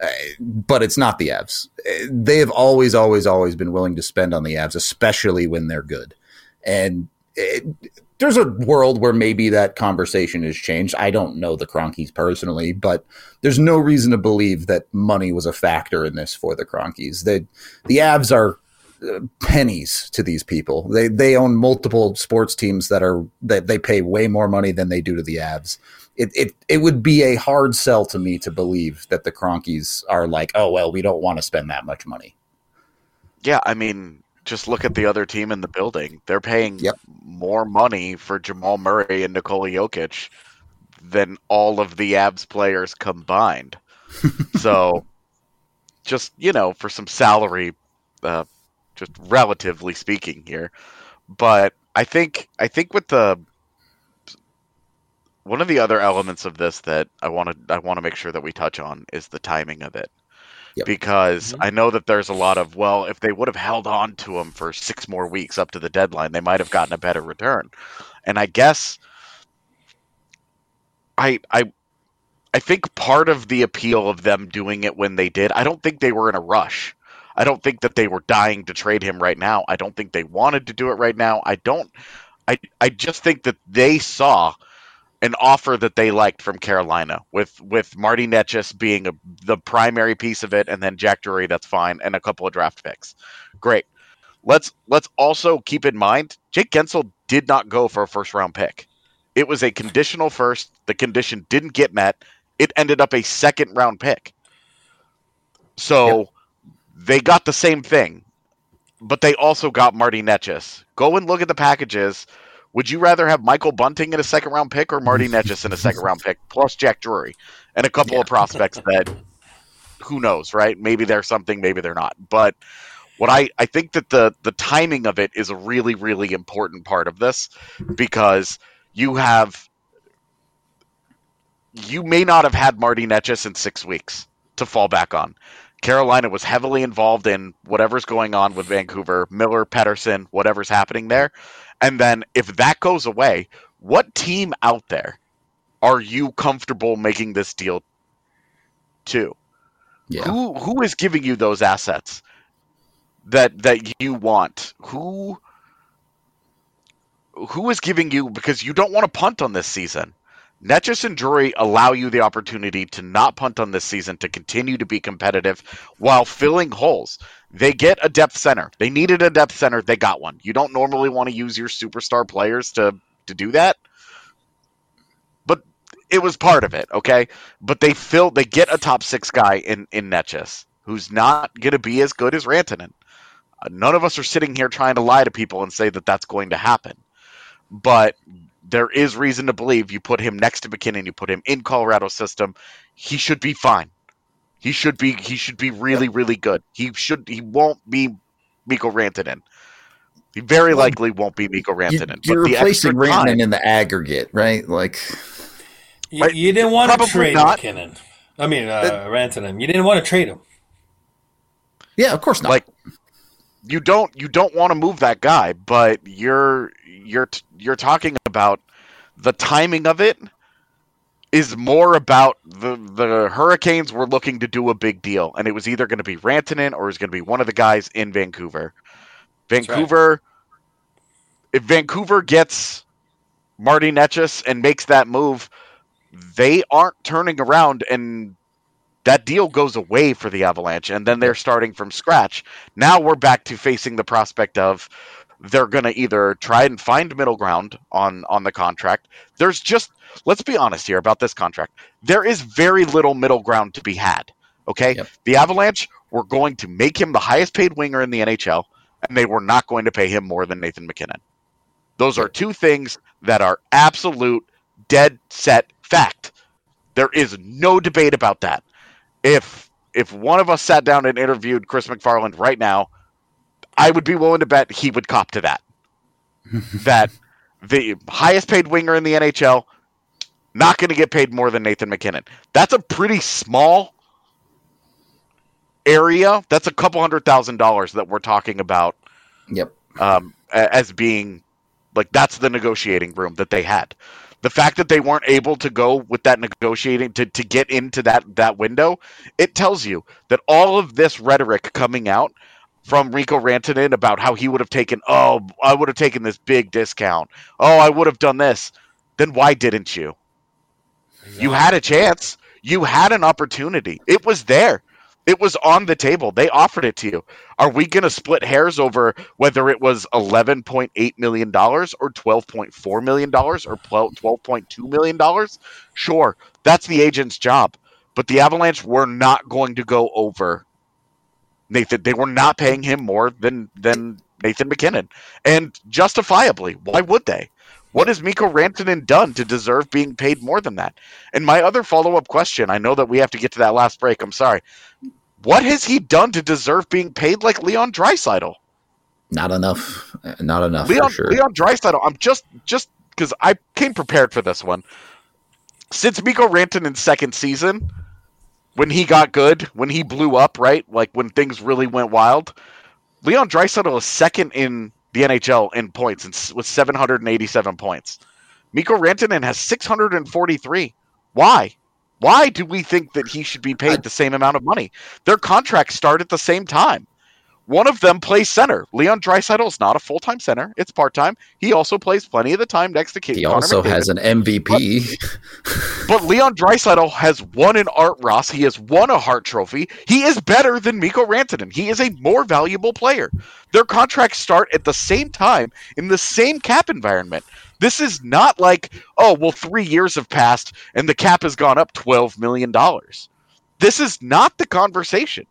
uh, but it's not the Avs. They have always, always, always been willing to spend on the Avs, especially when they're good. And it, there's a world where maybe that conversation has changed. I don't know the Cronkies personally, but there's no reason to believe that money was a factor in this for the Cronkies. They, the Avs are pennies to these people. They they own multiple sports teams that are that they pay way more money than they do to the Avs. It it it would be a hard sell to me to believe that the Cronkies are like, oh well, we don't want to spend that much money. Yeah, I mean, just look at the other team in the building. They're paying yep. more money for Jamal Murray and Nikola Jokic than all of the Avs players combined. So, just, you know, for some salary, uh, just relatively speaking here. But I think I think with the one of the other elements of this that I want to I want to make sure that we touch on is the timing of it. Yep. Because mm-hmm. I know that there's a lot of, well, if they would have held on to him for six more weeks up to the deadline, they might have gotten a better return. And I guess I I I think part of the appeal of them doing it when they did, I don't think they were in a rush. I don't think that they were dying to trade him right now. I don't think they wanted to do it right now. I don't I I just think that they saw an offer that they liked from Carolina, with with Marty Netchus being a, the primary piece of it, and then Jack Drury, that's fine, and a couple of draft picks. Great. Let's let's also keep in mind, Jake Gensel did not go for a first-round pick. It was a conditional first. The condition didn't get met. It ended up a second-round pick. So yep. They got the same thing, but they also got Marty Netchus. Go and look at the packages. Would you rather have Michael Bunting in a second-round pick or Marty Netchus in a second-round pick, plus Jack Drury and a couple yeah. of prospects that, who knows, right? Maybe they're something, maybe they're not. But what I, I think that the, the timing of it is a really, really important part of this, because you have you may not have had Marty Netchus in six weeks to fall back on. Carolina was heavily involved in whatever's going on with Vancouver, Miller, Pettersson, whatever's happening there. And then if that goes away, what team out there are you comfortable making this deal to? Yeah. Who who is giving you those assets that that you want? Who who is giving you, because you don't want to punt on this season. Netchus and Drury allow you the opportunity to not punt on this season, to continue to be competitive while filling holes. They get a depth center. They needed a depth center. They got one. You don't normally want to use your superstar players to, to do that, but it was part of it, okay? But they fill, they get a top six guy in, in Netchus, who's not going to be as good as Rantanen. Uh, none of us are sitting here trying to lie to people and say that that's going to happen. But there is reason to believe, you put him next to McKinnon, you put him in Colorado's system, he should be fine. He should be he should be really, really good. He should he won't be Mikko Rantanen. He very well, likely won't be Mikko Rantanen. You're but replacing Rantanen time, in the aggregate, right? Like you, right, you didn't want to trade not. McKinnon. I mean uh, it, Rantanen. You didn't want to trade him. Yeah, of course not. Like you don't you don't want to move that guy, but you're you're you're talking about the timing of it is more about the the Hurricanes were looking to do a big deal, and it was either going to be Rantanen or it was going to be one of the guys in Vancouver. Vancouver, right. If Vancouver gets Marty Netchus and makes that move, they aren't turning around, and that deal goes away for the Avalanche, and then they're starting from scratch. Now we're back to facing the prospect of they're going to either try and find middle ground on, on the contract. There's just, let's be honest here about this contract. There is very little middle ground to be had, okay? Yep. The Avalanche were going to make him the highest paid winger in the N H L, and they were not going to pay him more than Nathan McKinnon. Those are two things that are absolute, dead set fact. There is no debate about that. If if one of us sat down and interviewed Chris McFarland right now, I would be willing to bet he would cop to that. That the highest paid winger in the N H L, not going to get paid more than Nathan McKinnon. That's a pretty small area. That's a couple hundred thousand dollars that we're talking about. Yep. Um, as being like, that's the negotiating room that they had. The fact that they weren't able to go with that negotiating to, to get into that, that window, it tells you that all of this rhetoric coming out from Rico Rantanen about how he would have taken, oh, I would have taken this big discount. Oh, I would have done this. Then why didn't you? Exactly. You had a chance. You had an opportunity. It was there. It was on the table. They offered it to you. Are we going to split hairs over whether it was eleven point eight million dollars or twelve point four million dollars or twelve point two million dollars? Sure, that's the agent's job. But the Avalanche were not going to go over Nathan. They were not paying him more than, than Nathan MacKinnon. And justifiably, why would they? What has Mikko Rantanen done to deserve being paid more than that? And my other follow-up question, I know that we have to get to that last break, I'm sorry. What has he done to deserve being paid like Leon Draisaitl? Not enough. Not enough, Leon, for sure. Leon Draisaitl, I'm just, just because I came prepared for this one. Since Mikko Rantanen's second season, when he got good, when he blew up, right? Like when things really went wild, Leon Draisaitl is second in the N H L in points and with seven hundred eighty-seven points. Mikko Rantanen has six hundred forty-three. Why? Why do we think that he should be paid the same amount of money? Their contracts start at the same time. One of them plays center. Leon Draisaitl is not a full-time center. It's part-time. He also plays plenty of the time next to Connor He also McDavid. has an M V P. But, but Leon Draisaitl has won an Art Ross. He has won a Hart Trophy. He is better than Mikko Rantanen. He is a more valuable player. Their contracts start at the same time in the same cap environment. This is not like, oh, well, three years have passed and the cap has gone up twelve million dollars. This is not the conversation.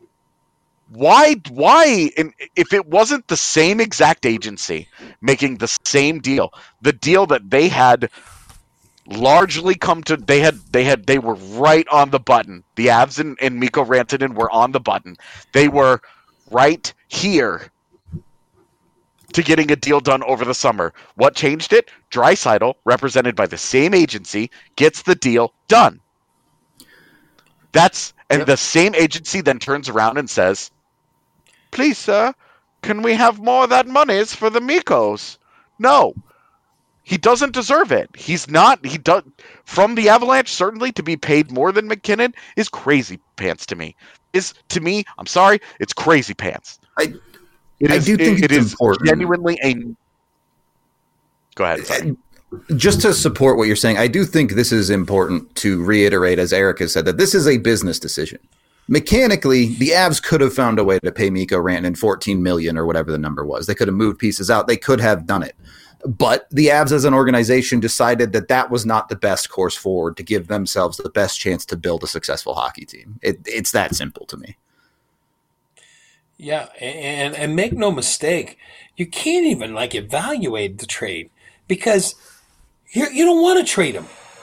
Why, why, and if it wasn't the same exact agency making the same deal, the deal that they had largely come to, they had, they had, they were right on the button. The Avs and, and Mikko Rantanen were on the button. They were right here to getting a deal done over the summer. What changed it? Draisaitl, represented by the same agency, gets the deal done. That's, and yep. The same agency then turns around and says, please, sir, can we have more of that monies for the Mikos? No. He doesn't deserve it. He's not, he does, from the Avalanche, certainly, to be paid more than MacKinnon is crazy pants to me. Is, to me, I'm sorry, it's crazy pants. I, it I is, do think it, it's it is important. Genuinely a... Go ahead. Sorry. Just to support what you're saying, I do think this is important to reiterate, as Eric has said, that this is a business decision. Mechanically, the Avs could have found a way to pay Mikko Rantanen fourteen million dollars or whatever the number was. They could have moved pieces out. They could have done it. But the Avs as an organization decided that that was not the best course forward to give themselves the best chance to build a successful hockey team. It, it's that simple to me. Yeah, and, and make no mistake, you can't even like evaluate the trade because you you don't want to trade him.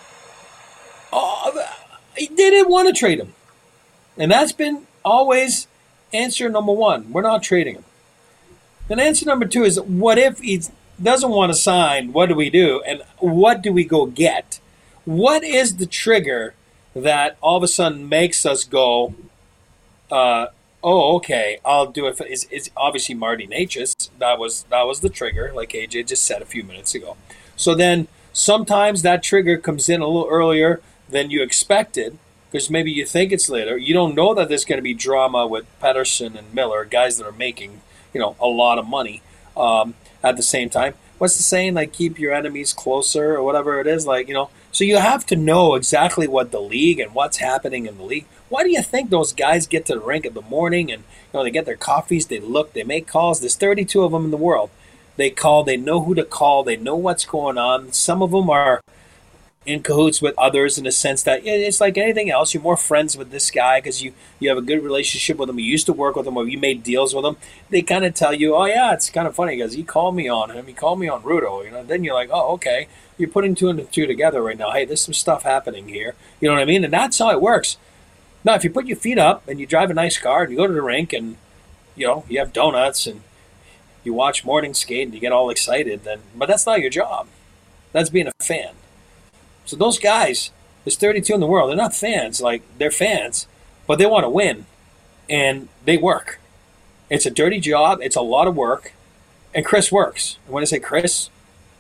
Oh, they didn't want to trade him. And that's been always answer number one. We're not trading him. Then answer number two is, what if he doesn't want to sign? What do we do? And what do we go get? What is the trigger that all of a sudden makes us go, uh, oh, okay, I'll do it. For, it's, it's obviously Marty Necas. That was, that was the trigger, like A J just said a few minutes ago. So then sometimes that trigger comes in a little earlier than you expected, because maybe you think it's later. You don't know that there's going to be drama with Pettersson and Miller, guys that are making, you know, a lot of money um, at the same time. What's the saying? Like, keep your enemies closer or whatever it is. Like, you know, so you have to know exactly what the league and what's happening in the league. Why do you think those guys get to the rink in the morning and, you know, they get their coffees, they look, they make calls? There's thirty-two of them in the world. They call, they know who to call, they know what's going on. Some of them are in cahoots with others in the sense that it's like anything else. You're more friends with this guy because you, you have a good relationship with him. You used to work with him or you made deals with him. They kind of tell you, oh, yeah, it's kind of funny because he called me on him. He called me on Rudo. You know, then you're like, oh, okay. You're putting two and two together right now. Hey, there's some stuff happening here. You know what I mean? And that's how it works. Now, if you put your feet up and you drive a nice car and you go to the rink and, you know, you have donuts and you watch morning skate and you get all excited, then but that's not your job. That's being a fan. So those guys, there's thirty-two in the world. They're not fans. Like, they're fans, but they want to win, and they work. It's a dirty job. It's a lot of work, and Chris works. And when I say Chris,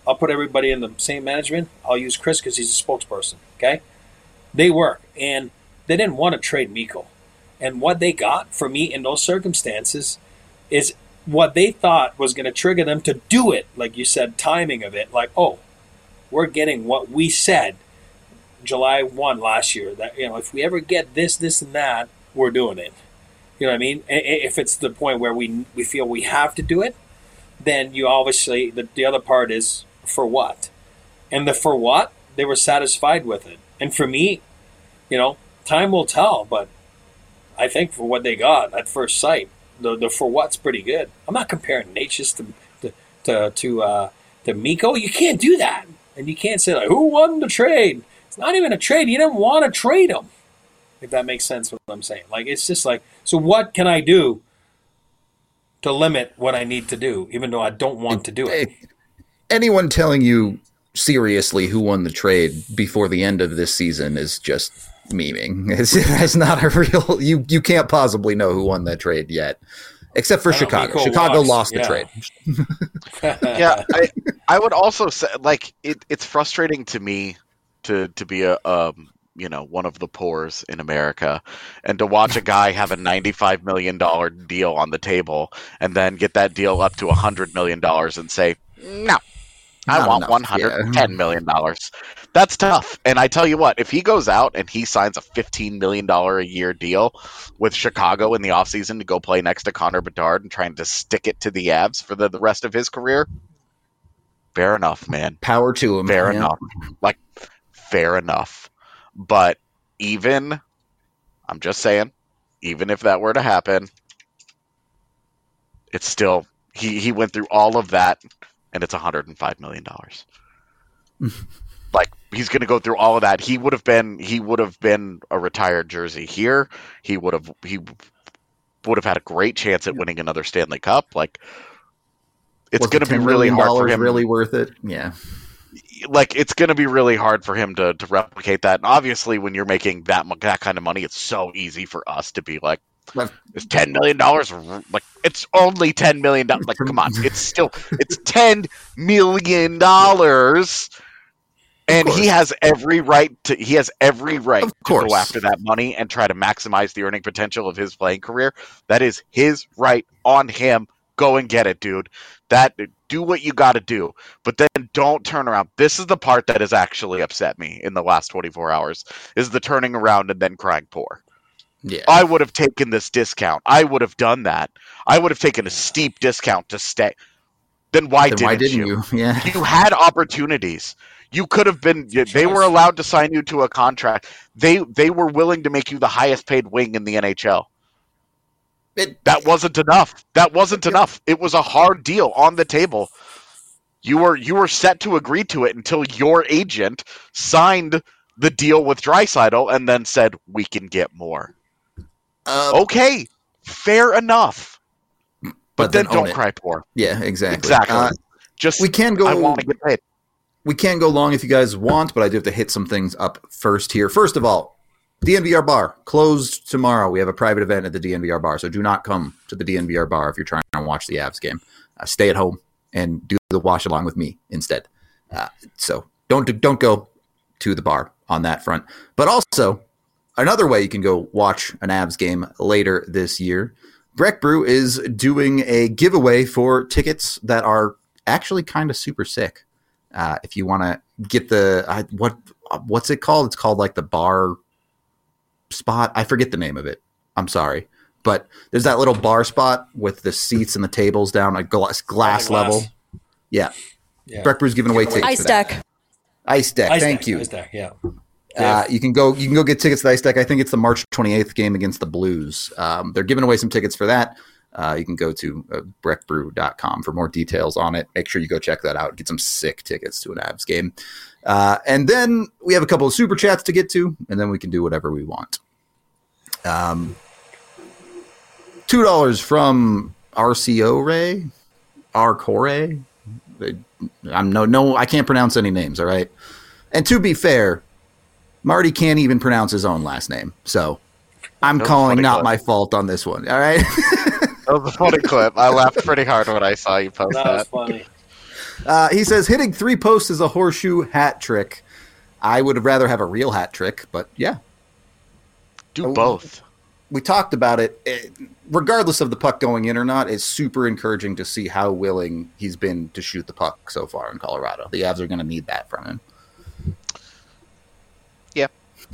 I'll put everybody in the same management. I'll use Chris because he's a spokesperson. Okay, they work, and they didn't want to trade Mikko, and what they got for me in those circumstances is what they thought was going to trigger them to do it. Like you said, timing of it. Like, oh, we're getting what we said July first last year. That, you know, if we ever get this, this, and that, we're doing it. You know what I mean? If it's the point where we we feel we have to do it, then you obviously, the, the other part is for what? And the for what, they were satisfied with it. And for me, you know, time will tell, but I think for what they got at first sight, the the for what's pretty good. I'm not comparing Natchez to to to to, uh, to Mikko. You can't do that, and you can't say like, who won the trade? It's not even a trade. You didn't want to trade him. If that makes sense, what I'm saying. Like, it's just like, so what can I do to limit what I need to do, even though I don't want to do it? Anyone telling you seriously who won the trade before the end of this season is just memeing. It's, it's not a real. You you can't possibly know who won that trade yet, except for Chicago. Chicago lost the yeah. trade. yeah, I, I would also say, like, it, it's frustrating to me to to be a um you know one of the poors in America, and to watch a guy have a ninety-five million dollar deal on the table and then get that deal up to a hundred million dollars and say no. I Not want enough, one hundred ten yeah. million dollars. That's tough. And I tell you what, if he goes out and he signs a fifteen million dollars a year deal with Chicago in the offseason to go play next to Connor Bedard and trying to stick it to the Avs for the, the rest of his career, fair enough, man. Power to him. Fair yeah. enough. Like, fair enough. But even, I'm just saying, even if that were to happen, it's still, he, he went through all of that, and it's one hundred five million dollars. Like, he's going to go through all of that. He would have been he would have been a retired jersey here. He would have he would have had a great chance at winning another Stanley Cup. Like, it's going to be really hard for him. Really worth it. Yeah. Like, it's going to be really hard for him to, to replicate that. And obviously, when you're making that that kind of money, it's so easy for us to be like, it's ten million dollars. Like, it's only ten million dollars. Like, come on, it's still it's ten million dollars, and he has every right to. He has every right to go after that money and try to maximize the earning potential of his playing career. That is his right on him. Go and get it, dude. That do what you got to do, but then don't turn around. This is the part that has actually upset me in the last twenty-four hours: is the turning around and then crying poor. Yeah. I would have taken this discount. I would have done that. I would have taken a steep discount to stay. Then why then didn't, why didn't you? you? Yeah. You had opportunities. You could have been. They were allowed to sign you to a contract. They they were willing to make you the highest paid wing in the N H L. It, that wasn't enough. That wasn't enough. It was a hard deal on the table. You were you were set to agree to it until your agent signed the deal with Draisaitl and then said, we can get more. Uh, okay, fair enough. But, but then, then don't cry poor. Yeah, exactly. Exactly. Uh, Just we can go. I want to get paid. We can go long if you guys want, but I do have to hit some things up first here. First of all, D N V R Bar closed tomorrow. We have a private event at the D N V R Bar, so do not come to the D N V R Bar if you're trying to watch the Avs game. Uh, stay at home and do the watch along with me instead. Uh, so don't don't go to the bar on that front. But also, another way you can go watch an Avs game later this year, Breck Brew is doing a giveaway for tickets that are actually kind of super sick. Uh, if you want to get the uh, what what's it called? It's called like the bar spot. I forget the name of it. I'm sorry, but there's that little bar spot with the seats and the tables down a glass, glass, glass. level. Yeah, yeah. Breck Brew's giving away tickets. Ice deck. Ice deck. Ice Thank deck, you. Ice deck. Yeah. Uh, you can go. You can go get tickets to the Ice Deck. I think it's the March twenty-eighth game against the Blues. Um, they're giving away some tickets for that. Uh, you can go to uh, breck brew dot com for more details on it. Make sure you go check that out. Get some sick tickets to an Avs game. Uh, and then we have a couple of super chats to get to, and then we can do whatever we want. Um, two dollars from R C O Ray, R Corey. I'm no no. I can't pronounce any names. All right. And to be fair, Marty can't even pronounce his own last name, so I'm calling not clip. my fault on this one. All right. That was a funny clip. I laughed pretty hard when I saw you post that. That was funny. Uh, he says, hitting three posts is a horseshoe hat trick. I would rather have a real hat trick, but yeah. Do both. We talked about it. it. Regardless of the puck going in or not, it's super encouraging to see how willing he's been to shoot the puck so far in Colorado. The Avs are going to need that from him. Yeah.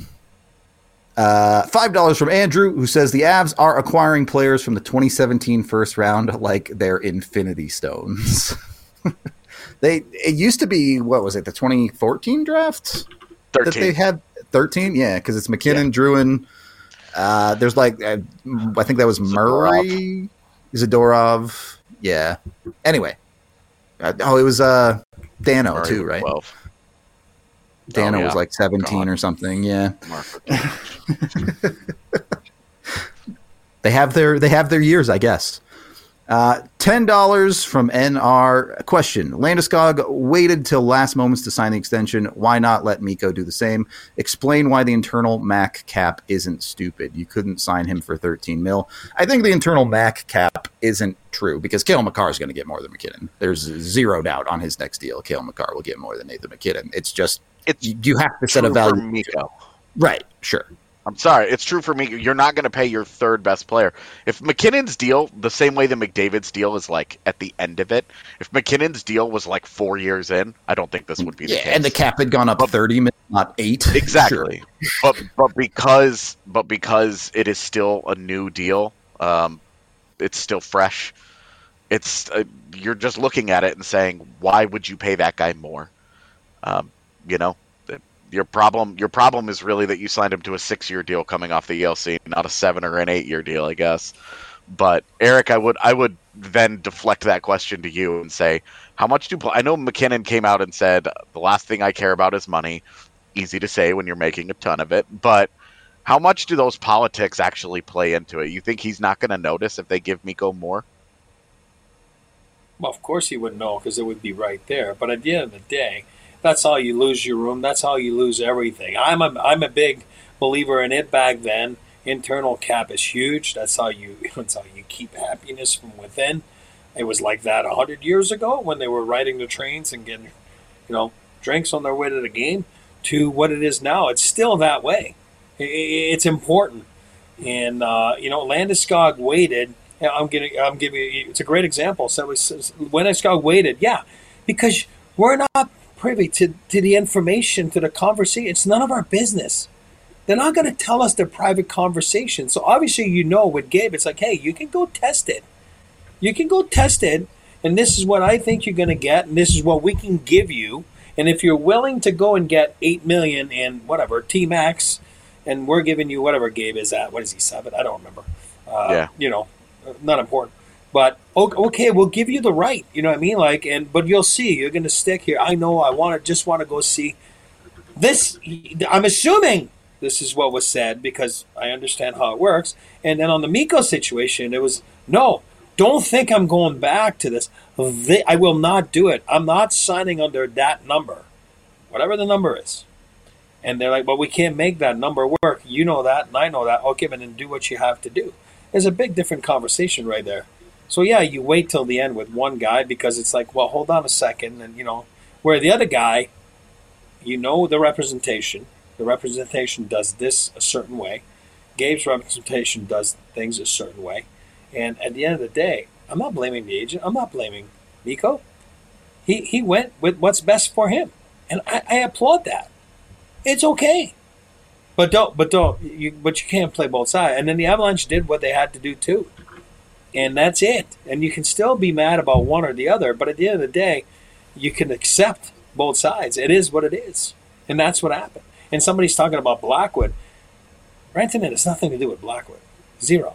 Uh, five dollars from Andrew, who says the Avs are acquiring players from the twenty seventeen first round like they're Infinity Stones. they It used to be, what was it, the twenty fourteen draft? thirteen. That they had thirteen? Yeah, because it's McKinnon, yeah. Drouin. Uh, there's like, uh, I think that was Murray, Zadorov. Yeah. Anyway. Uh, oh, it was uh, Dano Murray too, right? twelve. Dano oh, yeah. was like seventeen God. Or something. Yeah. they have their they have their years, I guess. Uh, ten dollars from N R. Question. Landeskog waited till last moments to sign the extension. Why not let Mikko do the same? Explain why the internal Mac cap isn't stupid. You couldn't sign him for thirteen mil. I think the internal Mac cap isn't true because Cale Makar is going to get more than McKinnon. There's zero doubt on his next deal. Cale Makar will get more than Nathan McKinnon. It's just it's you have to set a value. For Mikko. Right, sure. I'm sorry, it's true for me. You're not going to pay your third best player. If McKinnon's deal, the same way that McDavid's deal is like at the end of it, if McKinnon's deal was like four years in, I don't think this would be the yeah, case. And the cap had gone up but, thirty, not eight. Exactly. Sure. But but because but because it is still a new deal, um, it's still fresh. It's uh, you're just looking at it and saying, why would you pay that guy more? Um, you know. Your problem, your problem is really that you signed him to a six-year deal coming off the E L C, not a seven or an eight-year deal, I guess. But Eric, I would, I would then deflect that question to you and say, how much do I know? McKinnon came out and said the last thing I care about is money. Easy to say when you're making a ton of it, but how much do those politics actually play into it? You think he's not going to notice if they give Mikko more? Well, of course he would know because it would be right there. But at the end of the day, that's how you lose your room. That's how you lose everything. I'm a I'm a big believer in it back then. Internal cap is huge. That's how you that's how you keep happiness from within. It was like that a hundred years ago when they were riding the trains and getting, you know, drinks on their way to the game. To what it is now, it's still that way. It's important, and uh, you know, Landeskog waited. I'm getting I'm giving you. It's a great example. So it was, Landeskog waited, yeah, because we're not privy to, to the information, to the conversation. It's none of our business. They're not going to tell us their private conversation. So obviously, you know, with Gabe, it's like, hey, you can go test it. You can go test it, and this is what I think you're going to get, and this is what we can give you. And if you're willing to go and get eight million dollars in whatever, T-Max, and we're giving you whatever Gabe is at, what is he, seven? I don't remember. Uh, yeah. You know, not important. But okay, we'll give you the right. You know what I mean? Like, and but you'll see. You're going to stick here. I know. I want to just want to go see this. I'm assuming this is what was said because I understand how it works. And then on the Mikko situation, it was no. Don't think I'm going back to this. They, I will not do it. I'm not signing under that number, whatever the number is. And they're like, well, we can't make that number work. You know that, and I know that. Okay, but then do what you have to do. There's a big different conversation right there. So, yeah, you wait till the end with one guy because it's like, well, hold on a second. And, you know, where the other guy, you know the representation. The representation does this a certain way. Gabe's representation does things a certain way. And at the end of the day, I'm not blaming the agent. I'm not blaming Mikko. He he went with what's best for him. And I, I applaud that. It's okay. But don't, but don't, you, but you can't play both sides. And then the Avalanche did what they had to do too. And that's it. And you can still be mad about one or the other, but at the end of the day, you can accept both sides. It is what it is. And that's what happened. And somebody's talking about Blackwood. Rantanen has nothing to do with Blackwood. Zero.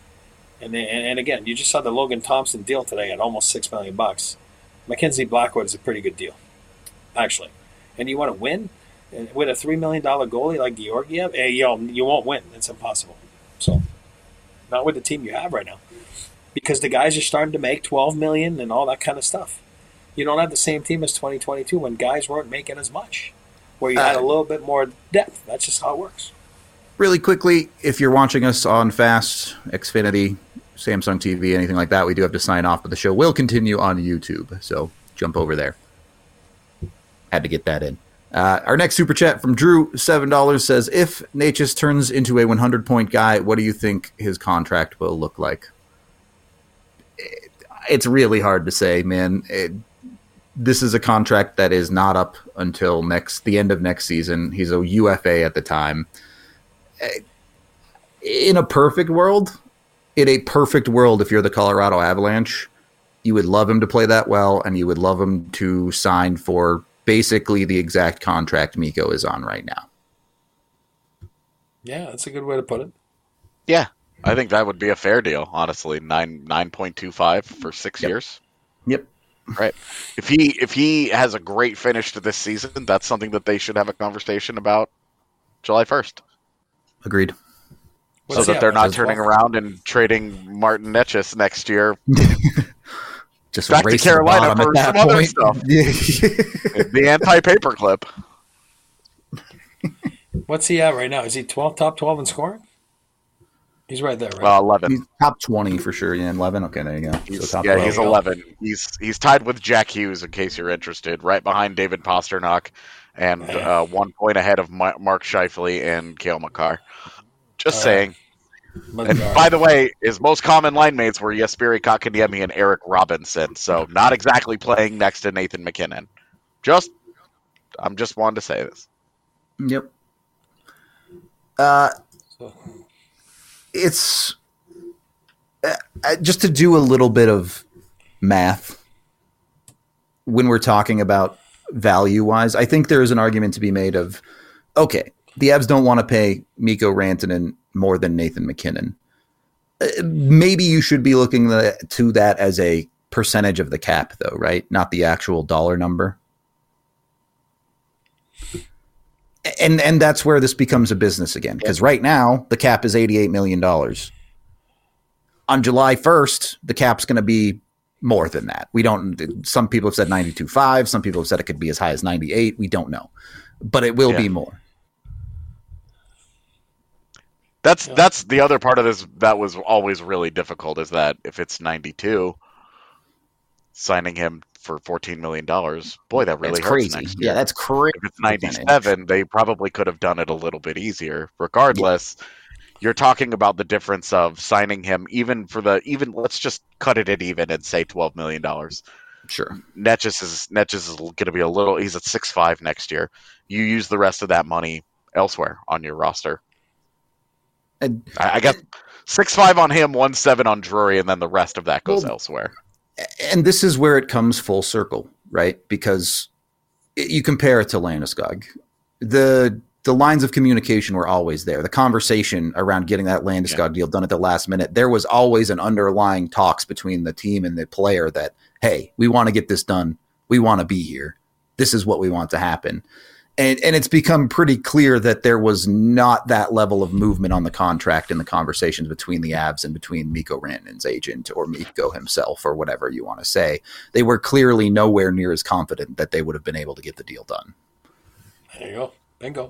And then, and again, you just saw the Logan Thompson deal today at almost six million bucks. Mackenzie Blackwood is a pretty good deal, actually. And you want to win with a three million dollars goalie like Georgiev? Hey, yo, you won't win. It's impossible. So, not with the team you have right now. Because the guys are starting to make twelve million dollars and all that kind of stuff. You don't have the same team as twenty twenty-two when guys weren't making as much, where you had a little bit more depth. That's just how it works. Really quickly, if you're watching us on Fast, Xfinity, Samsung T V, anything like that, we do have to sign off, but the show will continue on YouTube. So jump over there. Had to get that in. Uh, our next super chat from Drew, seven dollars, says, if Necas turns into a one hundred point guy, what do you think his contract will look like? It, it's really hard to say, man. It, this is a contract that is not up until next the end of next season. He's a U F A at the time. In a perfect world, in a perfect world, if you're the Colorado Avalanche, you would love him to play that well, and you would love him to sign for basically the exact contract Mikko is on right now. Yeah, that's a good way to put it. Yeah, I think that would be a fair deal, honestly. Nine nine point two five for six Yep. years. Yep. Right. If he if he has a great finish to this season, that's something that they should have a conversation about July first. Agreed. What's so that he they're at, not like turning twelve? around and trading Martin Necas next year. Just Back to race the Carolina bottom for at some that other point. stuff. Yeah. The anti-paperclip. What's he at right now? Is he twelve, top twelve in scoring? He's right there, right? Well, eleven. He's top twenty for sure. Yeah, eleven. Okay, there you go. He's, So top yeah, twelve. he's eleven. He's he's tied with Jack Hughes, in case you're interested, right behind David Pasternak, and uh, one point ahead of Ma- Mark Scheifele and Cale Makar. Just Uh, saying. But, And uh, by the way, his most common line mates were Jesperi Kotkaniemi and Eric Robinson, so not exactly playing next to Nathan McKinnon. Just, I'm just wanting to say this. Yep. Uh, so- it's uh, just to do a little bit of math when we're talking about value wise. I think there is an argument to be made of, okay, the Avs don't want to pay Mikko Rantanen more than Nathan McKinnon. Uh, maybe you should be looking the, to that as a percentage of the cap, though, right? Not the actual dollar number. And and that's where this becomes a business again, because right now the cap is eighty-eight million dollars. On July first, the cap's going to be more than that. We don't. Some people have said ninety-two point five. Some people have said it could be as high as ninety-eight. We don't know, but it will Yeah. be more. That's Yeah. that's the other part of this that was always really difficult, is that if it's ninety-two, signing him for fourteen million dollars, boy, that really That's hurts crazy. next year. Yeah, that's crazy. If it's ninety-seven, they probably could have done it a little bit easier. Regardless, you're talking about the difference of signing him even for the even. Let's just cut it at even and say twelve million dollars. Sure. Netjes is Netjes is going to be a little. He's at six five next year. You use the rest of that money elsewhere on your roster. And, I, I got six five on him, one seven on Drury, and then the rest of that goes Well, elsewhere. and this is where it comes full circle, right? Because it, you compare it to Landeskog. The the lines of communication were always there. The conversation around getting that Landeskog Yeah. deal done at the last minute, there was always an underlying talks between the team and the player that, hey, we want to get this done. We want to be here. This is what we want to happen. And and it's become pretty clear that there was not that level of movement on the contract in the conversations between the Avs and between Mikko Rantanen's agent or Mikko himself or whatever you want to say. They were clearly nowhere near as confident that they would have been able to get the deal done. There you go. Bingo.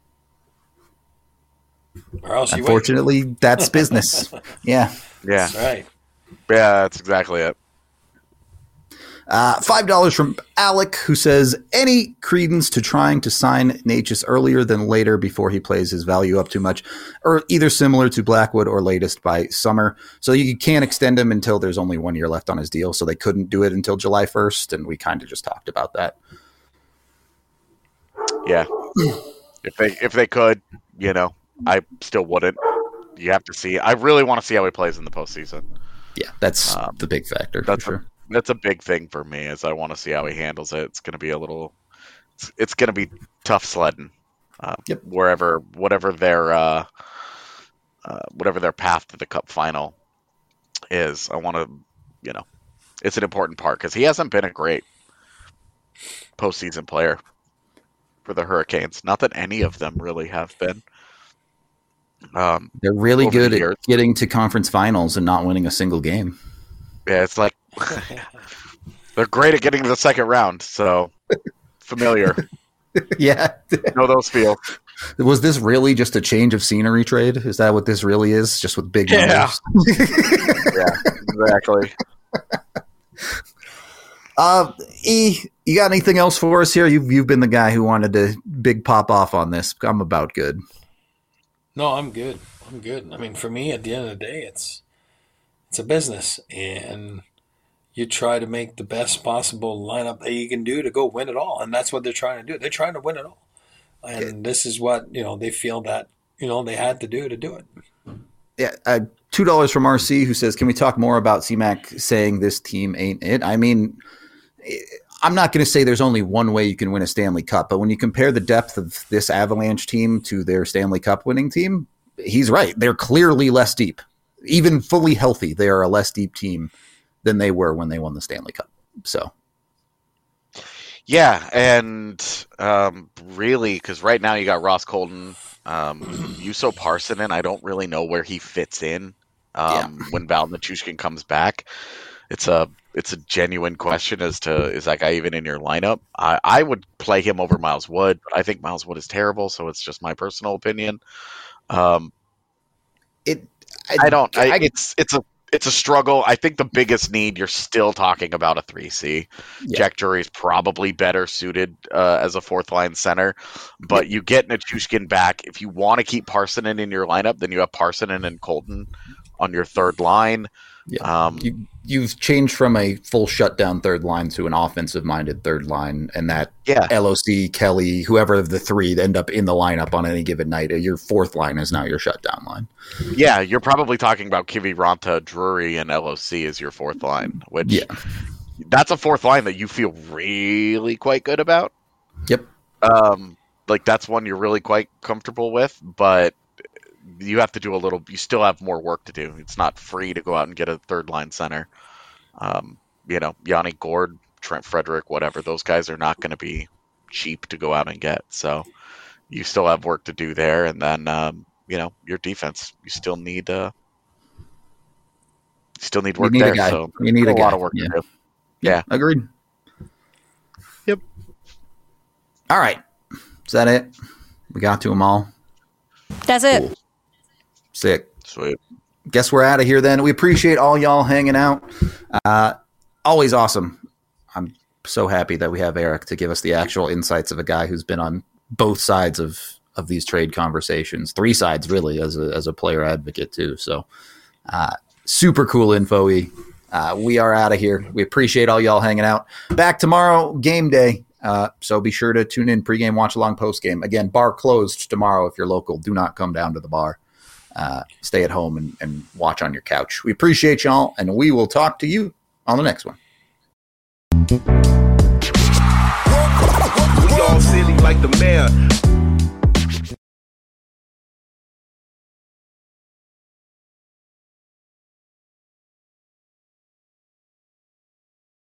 Or else you wait. Unfortunately, that's business. Yeah. Yeah, That's right. yeah, that's exactly it. Uh, five dollars from Alec, who says, any credence to trying to sign Necas earlier than later before he plays his value up too much, or either similar to Blackwood or latest by summer. So you can't extend him until there's only one year left on his deal. So they couldn't do it until July first. And we kind of just talked about that. Yeah, if they if they could, you know, I still wouldn't. You have to see. I really want to see how he plays in the postseason. Yeah, that's Um, the big factor That's for sure. a, that's a big thing for me. Is I want to see how he handles it. It's going to be a little. It's, it's going to be tough sledding. Uh, Yep. Wherever, whatever their, uh, uh, whatever their path to the Cup final is, I want to, you know, it's an important part because he hasn't been a great postseason player for the Hurricanes. Not that any of them really have been. Um, They're really over the good years. at getting to conference finals and not winning a single game. yeah, it's like they're great at getting to the second round. So familiar, Yeah. know those feel. Was this really just a change of scenery trade? Is that what this really is? Just with big Yeah. numbers? Yeah, exactly. Uh, E, you got anything else for us here? You've you've been the guy who wanted to big pop off on this. I'm about good. No, I'm good. I'm good. I mean, for me, at the end of the day, it's it's a business, and you try to make the best possible lineup that you can do to go win it all, and that's what they're trying to do. They're trying to win it all, and yeah. This is what you know they feel that you know they had to do to do it. Yeah, uh, two dollars from R C who says, "Can we talk more about C-Mac saying this team ain't it?" I mean, I'm not going to say there's only one way you can win a Stanley Cup, but when you compare the depth of this Avalanche team to their Stanley Cup winning team, he's right. They're clearly less deep. Even fully healthy, they are a less deep team than they were when they won the Stanley Cup. So, yeah, and um, really, because right now you got Ross Colton, um, Juuso Parssinen. I don't really know where he fits in um, yeah. when Val Nichushkin comes back. It's a it's a genuine question as to is that guy even in your lineup? I, I would play him over Miles Wood, but I think Miles Wood is terrible, so it's just my personal opinion. Um, it I, I don't. I, I, it's it's a it's a struggle. I think the biggest need, you're still talking about a three C. Yeah. Jack Drury is probably better suited uh, as a fourth line center, but yeah. you get Nichushkin back. If you want to keep Parssinen in your lineup, then you have Parssinen and Colton on your third line. Yeah. Um, you, you've changed from a full shutdown third line to an offensive-minded third line, and that yeah. L O C, Kelly, whoever of the three end up in the lineup on any given night, your fourth line is now your shutdown line. Yeah, you're probably talking about Kiviranta, Drury, and L O C as your fourth line, which yeah. that's a fourth line that you feel really quite good about. Yep. Um, like that's one you're really quite comfortable with, but you have to do a little, you still have more work to do. It's not free to go out and get a third line center. Um, you know, Yanni Gourde, Trent Frederick, whatever, those guys are not going to be cheap to go out and get. So you still have work to do there. And then, um, you know, your defense, you still need, uh, you still need work you need there. A So you need a, a guy. lot of work yeah. to do. Yeah. yeah. Agreed. Yep. All right. Is that it? We got to them all. That's it. Cool. Sick. Sweet. Guess we're out of here then. We appreciate all y'all hanging out. Uh, always awesome. I'm so happy that we have Eric to give us the actual insights of a guy who's been on both sides of, of these trade conversations. Three sides, really, as a, as a player advocate, too. So uh, super cool info. Uh, we are out of here. We appreciate all y'all hanging out. Back tomorrow, game day. Uh, so be sure to tune in pregame, watch along, postgame. Again, bar closed tomorrow if you're local. Do not come down to the bar. Uh, stay at home and, and watch on your couch. We appreciate y'all, and we will talk to you on the next one. We all silly like the mayor.